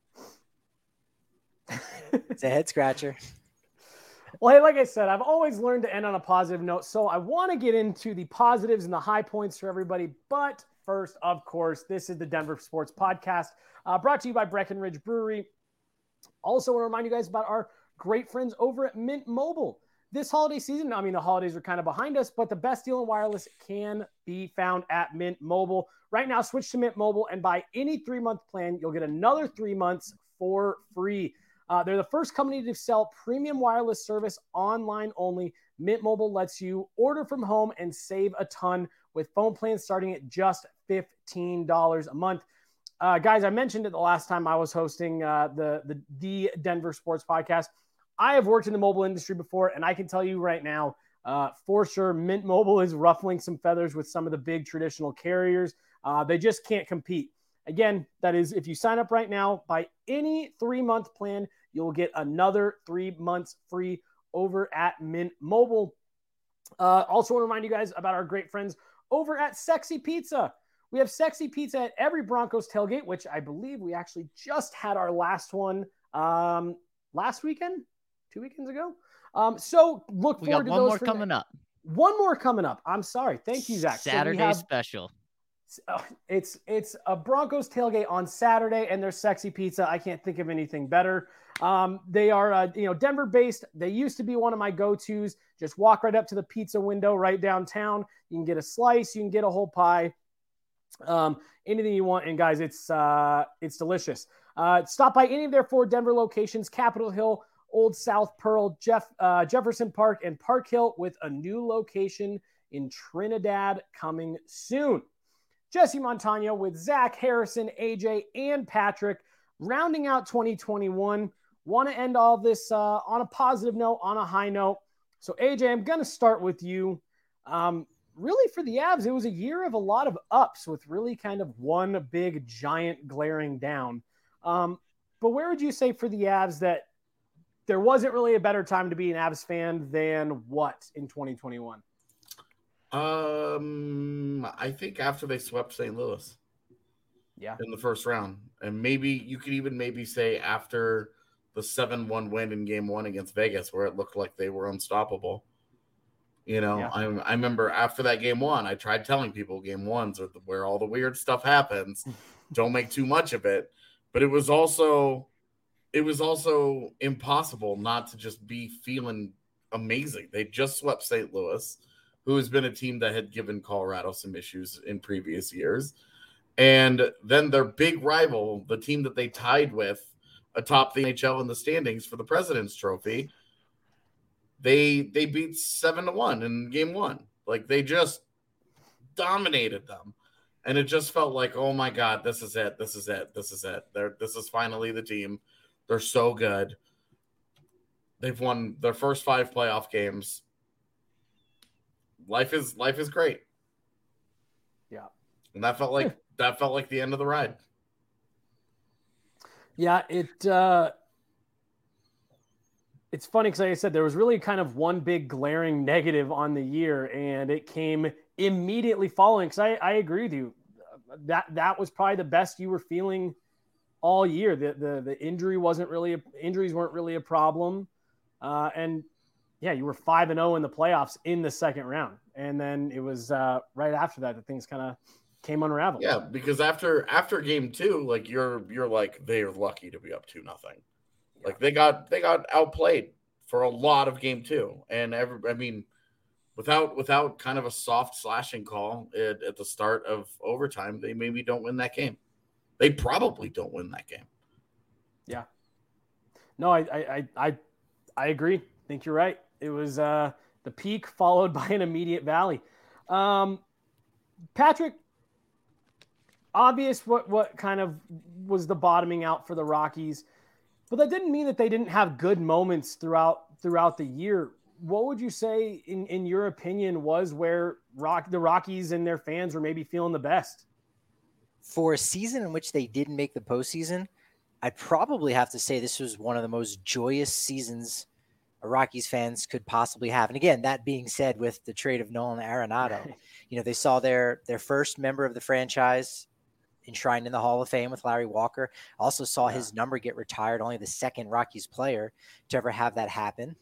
It's a head scratcher. Well, hey, like I said, I've always learned to end on a positive note. So I want to get into the positives and the high points for everybody. But first, of course, this is the Denver Sports Podcast, uh, brought to you by Breckenridge Brewery. Also want to remind you guys about our great friends over at Mint Mobile. This holiday season, I mean, the holidays are kind of behind us, but the best deal in wireless can be found at Mint Mobile. Right now, switch to Mint Mobile and buy any three-month plan. You'll get another three months for free. Uh, they're the first company to sell premium wireless service online only. Mint Mobile lets you order from home and save a ton with phone plans starting at just fifteen dollars a month. Uh, guys, I mentioned it the last time I was hosting uh, the, the, the Denver Sports Podcast. I have worked in the mobile industry before, and I can tell you right now, uh, for sure, Mint Mobile is ruffling some feathers with some of the big traditional carriers. Uh, they just can't compete. Again, that is, if you sign up right now, by any three-month plan, you'll get another three months free over at Mint Mobile. Uh, also want to remind you guys about our great friends over at Sexy Pizza. We have Sexy Pizza at every Broncos tailgate, which I believe we actually just had our last one um, last weekend, two weekends ago. Um, so look We forward got to one those more for coming the- up. One more coming up. I'm sorry. Thank you, Zach. So we Saturday have- special. Uh, it's it's a Broncos tailgate on Saturday, and there's Sexy Pizza. I can't think of anything better. Um, they are uh, you know Denver based. They used to be one of my go-tos. Just walk right up to the pizza window right downtown. You can get a slice. You can get a whole pie. Um, anything you want. And guys, it's uh, it's delicious. Uh, stop by any of their four Denver locations: Capitol Hill, Old South Pearl, Jeff uh, Jefferson Park, and Park Hill, with a new location in Trinidad coming soon. Jesse Montano with Zach, Harrison, A J, and Patrick, rounding out twenty twenty-one. Want to end all this uh, on a positive note, on a high note. So, A J, I'm going to start with you. Um, really, for the Avs, it was a year of a lot of ups with really kind of one big, giant glaring down. Um, but where would you say for the Avs that there wasn't really a better time to be an Avs fan than what in twenty twenty-one? Um, I think after they swept Saint Louis, yeah, in the first round, and maybe you could even maybe say after the seven one win in Game One against Vegas, where it looked like they were unstoppable. You know, Yeah. I I remember after that Game One, I tried telling people Game Ones are where all the weird stuff happens. Don't make too much of it, but it was also it was also impossible not to just be feeling amazing. They just swept Saint Louis, who has been a team that had given Colorado some issues in previous years. And then their big rival, the team that they tied with atop the N H L in the standings for the President's Trophy, they they beat seven to one in game one. Like, they just dominated them. And it just felt like, oh my God, this is it. This is it. This is it. They're, this is finally the team. They're so good. They've won their first five playoff games. Life is life is great. Yeah. And that felt like that felt like the end of the ride. Yeah, it uh, it's funny because, like I said, there was really kind of one big glaring negative on the year, and it came immediately following. Because I, I agree with you, that that was probably the best you were feeling all year. The the the injury wasn't really a, injuries weren't really a problem, uh, and yeah, you were five and zero in the playoffs in the second round, and then it was uh, right after that that things kind of came unraveled. Yeah, because after after game two, like you're you're like they're lucky to be up two nothing. Like they got they got outplayed for a lot of game two. And every, I mean, without without kind of a soft slashing call at, at the start of overtime, they maybe don't win that game. They probably don't win that game. Yeah. No, I I I I agree. I think you're right. It was uh, the peak followed by an immediate valley. Um, Patrick, obvious what what kind of was the bottoming out for the Rockies, but that didn't mean that they didn't have good moments throughout throughout the year. What would you say, in, in your opinion, was where Rock the Rockies and their fans were maybe feeling the best? For a season in which they didn't make the postseason, I'd probably have to say this was one of the most joyous seasons Rockies fans could possibly have. And again, that being said, with the trade of Nolan Arenado, you know, they saw their their first member of the franchise enshrined in the Hall of Fame with Larry Walker. Also saw yeah. his number get retired, only the second Rockies player to ever have that happen.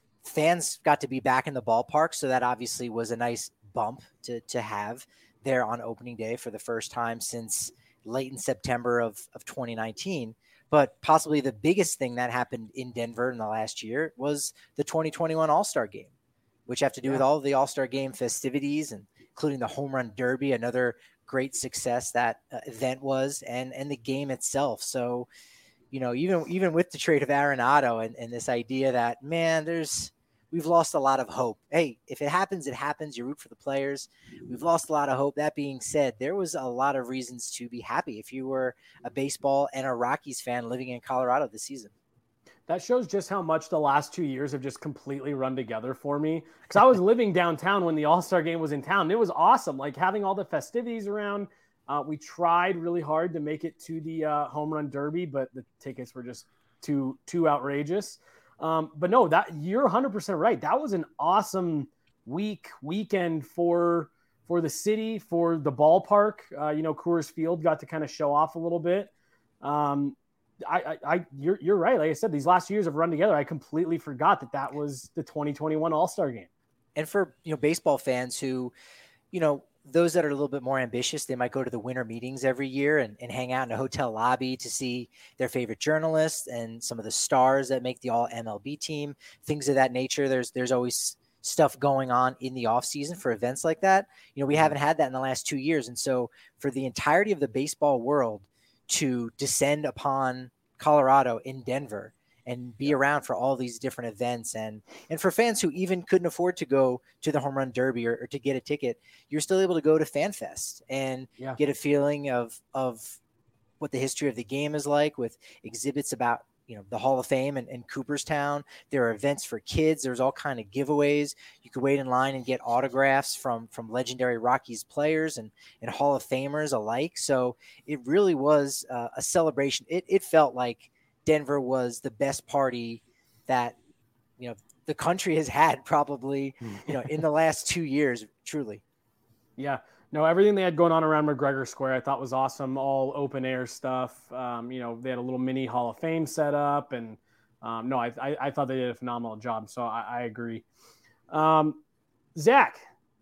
Fans got to be back in the ballpark, so that obviously was a nice bump to to have there on opening day for the first time since late in September of, of twenty nineteen. But possibly the biggest thing that happened in Denver in the last year was the twenty twenty-one All-Star Game, which have to do yeah. with all of the All-Star Game festivities, and including the Home Run Derby, another great success that uh, event was, and and the game itself. So, you know, even even with the trade of Arenado and, and this idea that, man, there's we've lost a lot of hope. Hey, if it happens, it happens. You root for the players. We've lost a lot of hope. That being said, there was a lot of reasons to be happy if you were a baseball and a Rockies fan living in Colorado this season. That shows just how much the last two years have just completely run together for me. Because I was living downtown when the All-Star Game was in town. And it was awesome, like having all the festivities around. Uh, we tried really hard to make it to the uh, Home Run Derby, but the tickets were just too too outrageous. Um, but no, that you're one hundred percent right. That was an awesome week, weekend for for the city, for the ballpark. Uh, you know, Coors Field got to kind of show off a little bit. Um, I, I, I, you're you're right. Like I said, these last years have run together. I completely forgot that that was the twenty twenty-one All-Star Game. And for you know baseball fans who, you know, those that are a little bit more ambitious, they might go to the winter meetings every year and, and hang out in a hotel lobby to see their favorite journalists and some of the stars that make the all M L B team, things of that nature. There's, there's always stuff going on in the off season for events like that. You know, we haven't had that in the last two years. And so for the entirety of the baseball world to descend upon Colorado in Denver and be around for all these different events. And, and for fans who even couldn't afford to go to the Home Run Derby or, or to get a ticket, you're still able to go to FanFest and yeah. get a feeling of, of what the history of the game is like, with exhibits about, you know, the Hall of Fame and, and Cooperstown. There are events for kids. There's all kind of giveaways. You could wait in line and get autographs from, from legendary Rockies players and, and Hall of Famers alike. So it really was uh, a celebration. It, it felt like Denver was the best party that, you know, the country has had probably, you know, in the last two years, truly. Yeah, no, everything they had going on around McGregor Square, I thought was awesome. All open air stuff. Um, you know, they had a little mini Hall of Fame set up, and um, no, I, I, I thought they did a phenomenal job. So I, I agree. Um, Zach.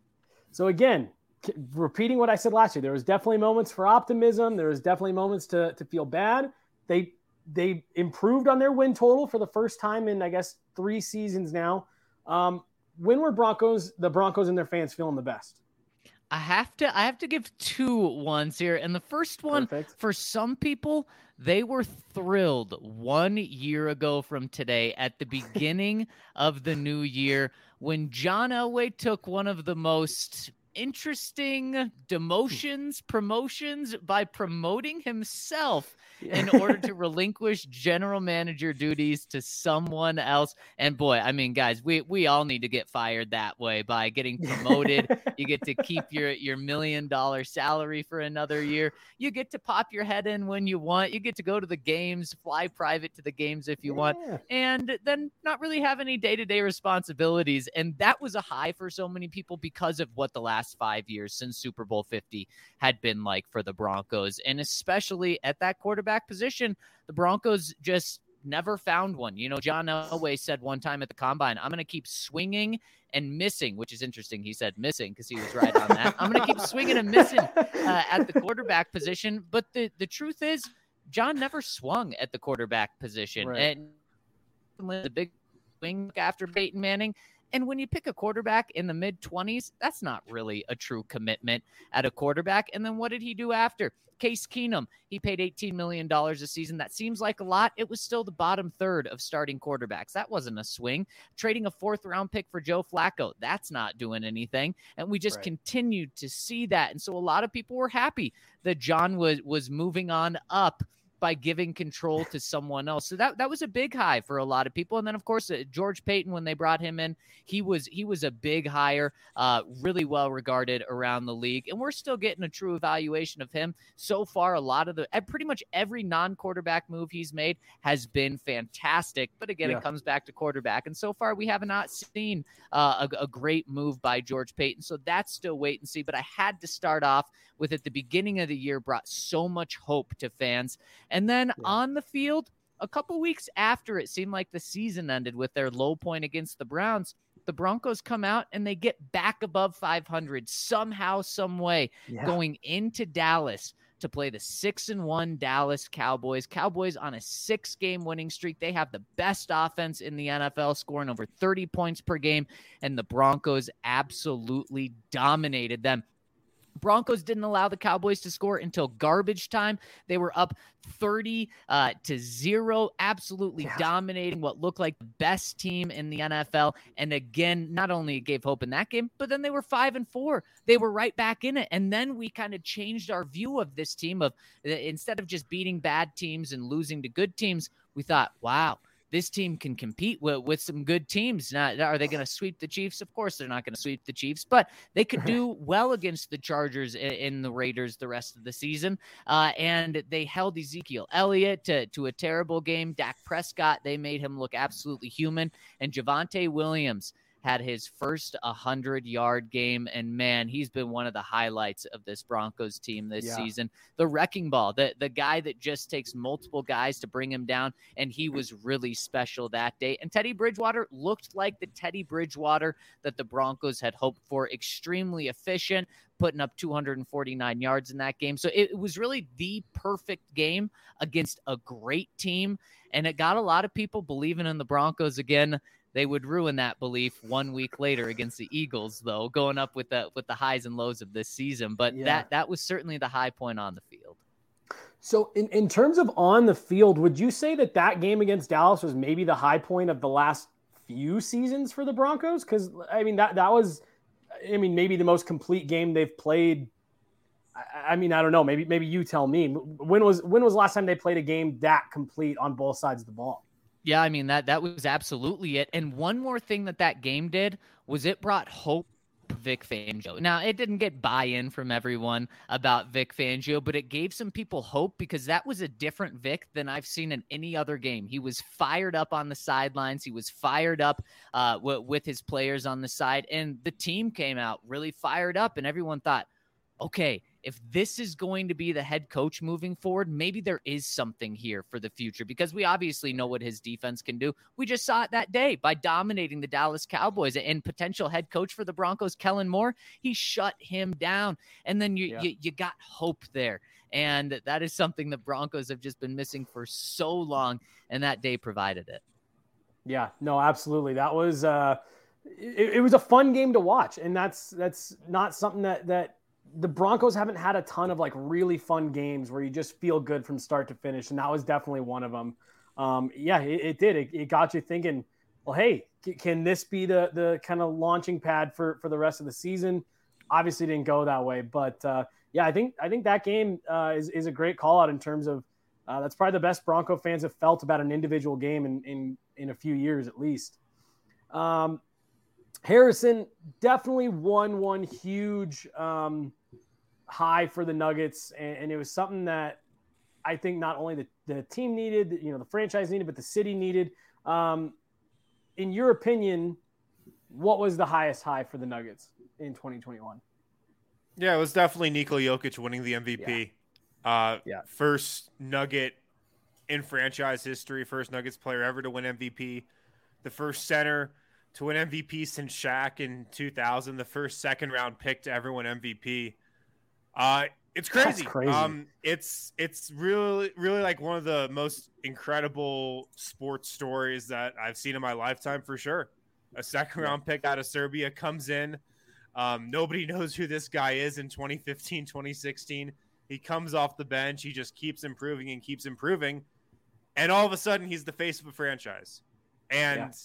So again, repeating what I said last year, there was definitely moments for optimism. There was definitely moments to, to feel bad. They, They improved on their win total for the first time in, I guess, three seasons now. Um, when were Broncos, the Broncos and their fans feeling the best? I have to, I have to give two ones here. And the first one, Perfect. For some people, they were thrilled one year ago from today at the beginning of the new year when John Elway took one of the most interesting demotions, promotions by promoting himself in order to relinquish general manager duties to someone else. And boy, I mean, guys, we, we all need to get fired that way by getting promoted. You get to keep your, your million dollar salary for another year. You get to pop your head in when you want. You get to go to the games, fly private to the games if you yeah. want, and then not really have any day-to-day responsibilities. And that was a high for so many people because of what the last five years since Super Bowl fifty had been like for the Broncos. And especially at that quarterback position, the Broncos just never found one. You know, John Elway said one time at the Combine, I'm going to keep swinging and missing, which is interesting. He said missing because he was right on that. I'm going to keep swinging and missing uh, at the quarterback position. But the, the truth is, John never swung at the quarterback position. Right. And the big swing after Peyton Manning. And when you pick a quarterback in the mid-twenties, that's not really a true commitment at a quarterback. And then what did he do after? Case Keenum, he paid eighteen million dollars a season. That seems like a lot. It was still the bottom third of starting quarterbacks. That wasn't a swing. Trading a fourth-round pick for Joe Flacco, that's not doing anything. And we just right. continued to see that. And so a lot of people were happy that John was, was moving on up by giving control to someone else. So that, that was a big high for a lot of people. And then, of course, uh, George Paton, when they brought him in, he was he was a big hire, uh, really well regarded around the league. And we're still getting a true evaluation of him. So far, a lot of the pretty much every non-quarterback move he's made has been fantastic. But again, yeah. it comes back to quarterback. And so far, we have not seen uh, a, a great move by George Paton. So that's still wait and see. But I had to start off with at the beginning of the year brought so much hope to fans. And then yeah. on the field, a couple weeks after it seemed like the season ended with their low point against the Browns, the Broncos come out and they get back above five hundred somehow, some way, yeah. going into Dallas to play the six and one Dallas Cowboys. Cowboys on a six-game winning streak. They have the best offense in the N F L, scoring over thirty points per game, and the Broncos absolutely dominated them. Broncos didn't allow the Cowboys to score until garbage time. They were up thirty uh, to zero, absolutely yeah. dominating what looked like the best team in the N F L. And again, not only it gave hope in that game, but then they were five and four. They were right back in it. And then we kind of changed our view of this team of instead of just beating bad teams and losing to good teams, we thought, wow, this team can compete with, with some good teams. Now, are they going to sweep the Chiefs? Of course, they're not going to sweep the Chiefs, but they could do well against the Chargers and the Raiders the rest of the season. Uh, and they held Ezekiel Elliott to, to a terrible game. Dak Prescott, they made him look absolutely human. And Javonte Williams had his first one hundred-yard game, and man, he's been one of the highlights of this Broncos team this yeah. season. The wrecking ball, the, the guy that just takes multiple guys to bring him down, and he was really special that day. And Teddy Bridgewater looked like the Teddy Bridgewater that the Broncos had hoped for, extremely efficient, putting up two hundred forty-nine yards in that game. So it, it was really the perfect game against a great team, and it got a lot of people believing in the Broncos again. They would ruin that belief one week later against the Eagles, though, going up with the with the highs and lows of this season. But yeah. that that was certainly the high point on the field. So in, in terms of on the field, would you say that that game against Dallas was maybe the high point of the last few seasons for the Broncos? Because, I mean, that, that was, I mean, maybe the most complete game they've played. I, I mean, I don't know. Maybe maybe you tell me. When was when was the last time they played a game that complete on both sides of the ball? Yeah, I mean, that that was absolutely it. And one more thing that that game did was it brought hope to Vic Fangio. Now, it didn't get buy-in from everyone about Vic Fangio, but it gave some people hope because that was a different Vic than I've seen in any other game. He was fired up on the sidelines. He was fired up uh, w- with his players on the side, and the team came out really fired up, and everyone thought, okay, if this is going to be the head coach moving forward, maybe there is something here for the future because we obviously know what his defense can do. We just saw it that day by dominating the Dallas Cowboys, and potential head coach for the Broncos, Kellen Moore, he shut him down. And then you, yeah. you, you got hope there. And that is something the Broncos have just been missing for so long. And that day provided it. Yeah, no, absolutely. That was, uh, it, it was a fun game to watch. And that's, that's not something that, that, the Broncos haven't had a ton of like really fun games where you just feel good from start to finish. And that was definitely one of them. Um, yeah, it, it did. It, it got you thinking, well, hey, c- can this be the, the kind of launching pad for, for the rest of the season? Obviously didn't go that way, but uh, yeah, I think, I think that game uh, is, is a great call out in terms of uh, that's probably the best Bronco fans have felt about an individual game in, in, in a few years at least. Um, Harrison definitely won one huge um, high for the Nuggets, and, and it was something that I think not only the, the team needed, you know, the franchise needed, but the city needed. Um, in your opinion, what was the highest high for the Nuggets in twenty twenty-one? Yeah, it was definitely Nikola Jokic winning the M V P. Yeah. Uh, yeah. First Nugget in franchise history, first Nuggets player ever to win M V P, the first center to win M V P since Shaq in two thousand, the first second round pick to ever win M V P. Uh, It's crazy. That's crazy. Um, it's it's really really like one of the most incredible sports stories that I've seen in my lifetime for sure. A second round yeah. pick out of Serbia comes in. Um, nobody knows who this guy is in twenty fifteen, twenty sixteen. He comes off the bench. He just keeps improving and keeps improving. And all of a sudden, he's the face of a franchise. And yeah.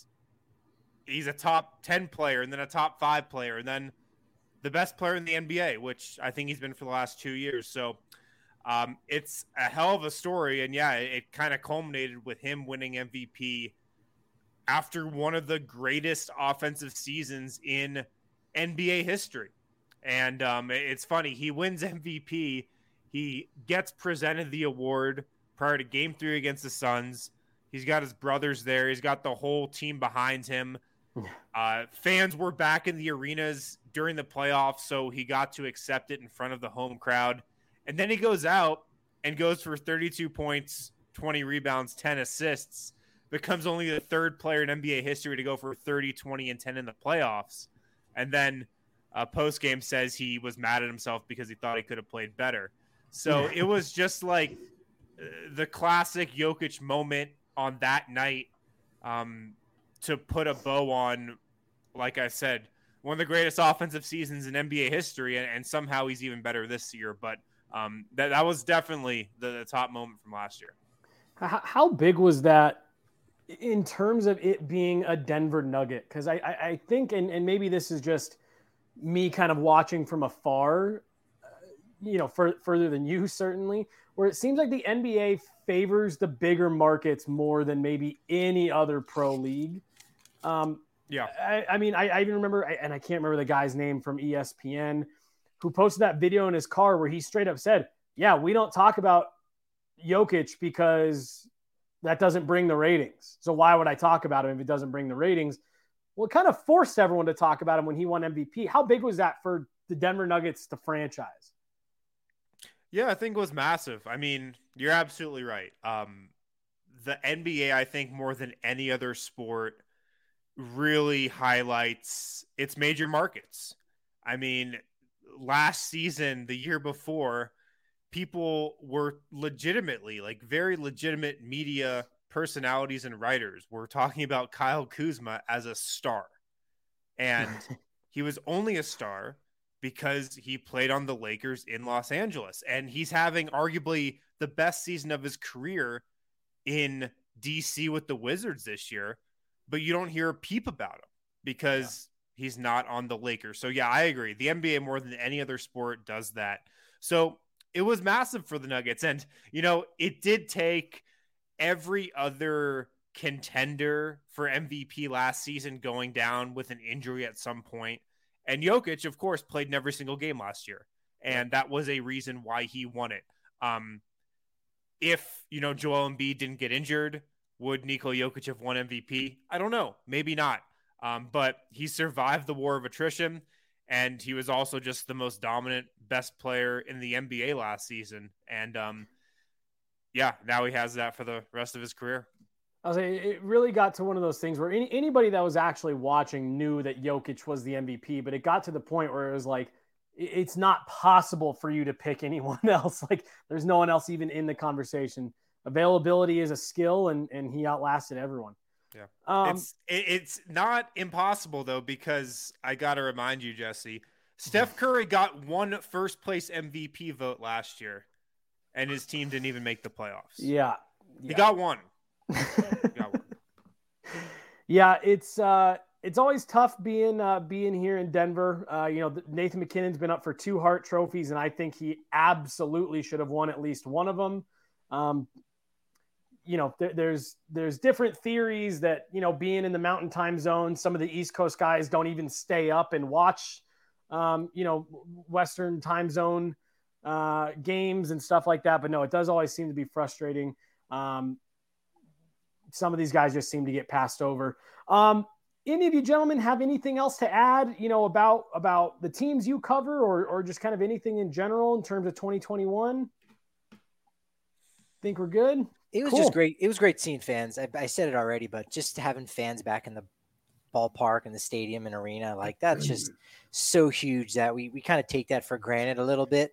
he's a top ten player, and then a top five player, and then the best player in the N B A, which I think he's been for the last two years. So um, it's a hell of a story. And, yeah, it, it kind of culminated with him winning M V P after one of the greatest offensive seasons in N B A history. And um, it's funny. He wins M V P. He gets presented the award prior to game three against the Suns. He's got his brothers there. He's got the whole team behind him. Uh, fans were back in the arenas during the playoffs, so he got to accept it in front of the home crowd. And then he goes out and goes for thirty-two points, twenty rebounds, ten assists, becomes only the third player in N B A history to go for thirty, twenty, and ten in the playoffs. And then uh, post-game says he was mad at himself because he thought he could have played better. So it was just like uh, the classic Jokic moment on that night um, to put a bow on, like I said, one of the greatest offensive seasons in N B A history, and, and somehow he's even better this year. But um, that, that was definitely the, the top moment from last year. How, how big was that in terms of it being a Denver Nugget? Because I, I, I think, and, and maybe this is just me kind of watching from afar, uh, you know, for, further than you certainly, where it seems like the N B A favors the bigger markets more than maybe any other pro league. Um, yeah. I, I mean, I, I even remember, and I can't remember the guy's name from E S P N who posted that video in his car where he straight up said, yeah, we don't talk about Jokic because that doesn't bring the ratings. So why would I talk about him if it doesn't bring the ratings? Well, it kind of forced everyone to talk about him when he won M V P. How big was that for the Denver Nuggets to franchise? Yeah, I think it was massive. I mean, you're absolutely right. Um, the N B A, I think, more than any other sport, really highlights its major markets. I mean, last season, the year before, people were legitimately, like very legitimate media personalities and writers were talking about Kyle Kuzma as a star. And he was only a star because he played on the Lakers in Los Angeles. And he's having arguably the best season of his career in D C with the Wizards this year. But you don't hear a peep about him because yeah. he's not on the Lakers. So, yeah, I agree. The N B A, more than any other sport, does that. So it was massive for the Nuggets. And, you know, it did take every other contender for M V P last season going down with an injury at some point. And Jokic, of course, played in every single game last year. And that was a reason why he won it. Um, if, you know, Joel Embiid didn't get injured, would Nikola Jokic have won M V P? I don't know. Maybe not. Um, but he survived the war of attrition. And he was also just the most dominant, best player in the N B A last season. And, um, yeah, now he has that for the rest of his career. I was saying, it really got to one of those things where any, anybody that was actually watching knew that Jokic was the M V P, but it got to the point where it was like, it's not possible for you to pick anyone else. Like, there's no one else even in the conversation. Availability is a skill, and, and he outlasted everyone. Yeah. Um, it's it, it's not impossible, though, because I got to remind you, Jesse, Steph Curry got one first place M V P vote last year, and his team didn't even make the playoffs. Yeah. He yeah. got one. Yeah, it's uh, it's always tough being uh, being here in Denver. Uh, you know, Nathan McKinnon's been up for two Hart trophies, and I think he absolutely should have won at least one of them. Um, you know, there, there's there's different theories that, you know, being in the Mountain Time Zone, some of the East Coast guys don't even stay up and watch, um, you know, Western Time Zone uh, games and stuff like that. But no, it does always seem to be frustrating. Um, Some of these guys just seem to get passed over. Um, any of you gentlemen have anything else to add, you know, about, about the teams you cover, or, or just kind of anything in general in terms of twenty twenty-one? Think we're good? It was Cool. just great. It was great seeing fans. I, I said it already, but just having fans back in the ballpark and the stadium and arena, like that's just so huge that we, we kind of take that for granted a little bit.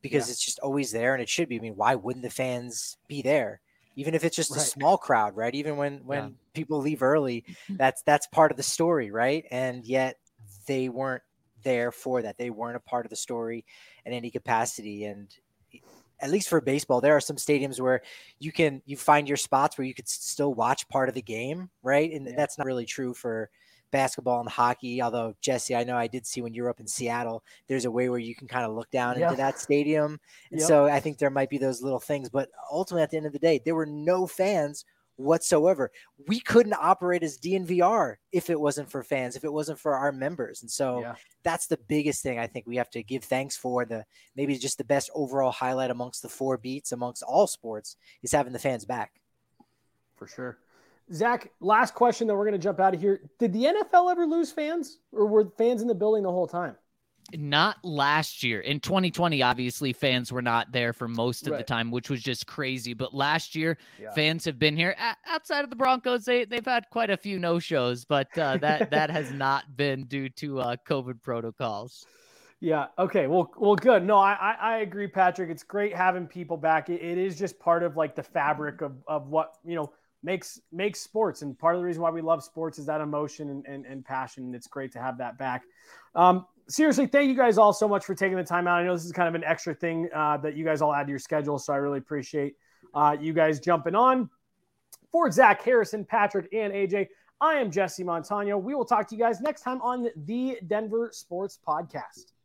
because Yeah. it's just always there, and it should be. I mean, why wouldn't the fans be there? Even if it's just Right. a small crowd, right? Even when when Yeah. people leave early, that's that's part of the story, right? And yet they weren't there for that. They weren't a part of the story in any capacity. And at least for baseball, there are some stadiums where you can you find your spots where you could still watch part of the game, right? And Yeah. that's not really true for basketball and hockey. Although, Jesse, I know I did see when you were up in Seattle, there's a way where you can kind of look down Yeah. into that stadium. And Yep. so I think there might be those little things. But ultimately, at the end of the day, there were no fans whatsoever. We couldn't operate as D N V R if it wasn't for fans, if it wasn't for our members. And so Yeah. that's the biggest thing I think we have to give thanks for. The maybe just the best overall highlight amongst the four beats amongst all sports is having the fans back. For sure. Zach, last question, then we're going to jump out of here. Did the N F L ever lose fans, or were fans in the building the whole time? Not last year. In twenty twenty, obviously, fans were not there for most of the Right. time, which was just crazy. But last year, Yeah. fans have been here. A- outside of the Broncos, they, they've had quite a few no-shows, but uh, that, that has not been due to uh, COVID protocols. Yeah. Okay. Well, well, good. No, I, I, I agree, Patrick. It's great having people back. It, it is just part of like the fabric of, of what, you know, makes, makes sports. And part of the reason why we love sports is that emotion and, and, and passion. And it's great to have that back. Um, seriously, thank you guys all so much for taking the time out. I know this is kind of an extra thing uh, that you guys all add to your schedule. So I really appreciate uh, you guys jumping on. For Zach, Harrison, Patrick, and A J, I am Jesse Montano. We will talk to you guys next time on the Denver Sports Podcast.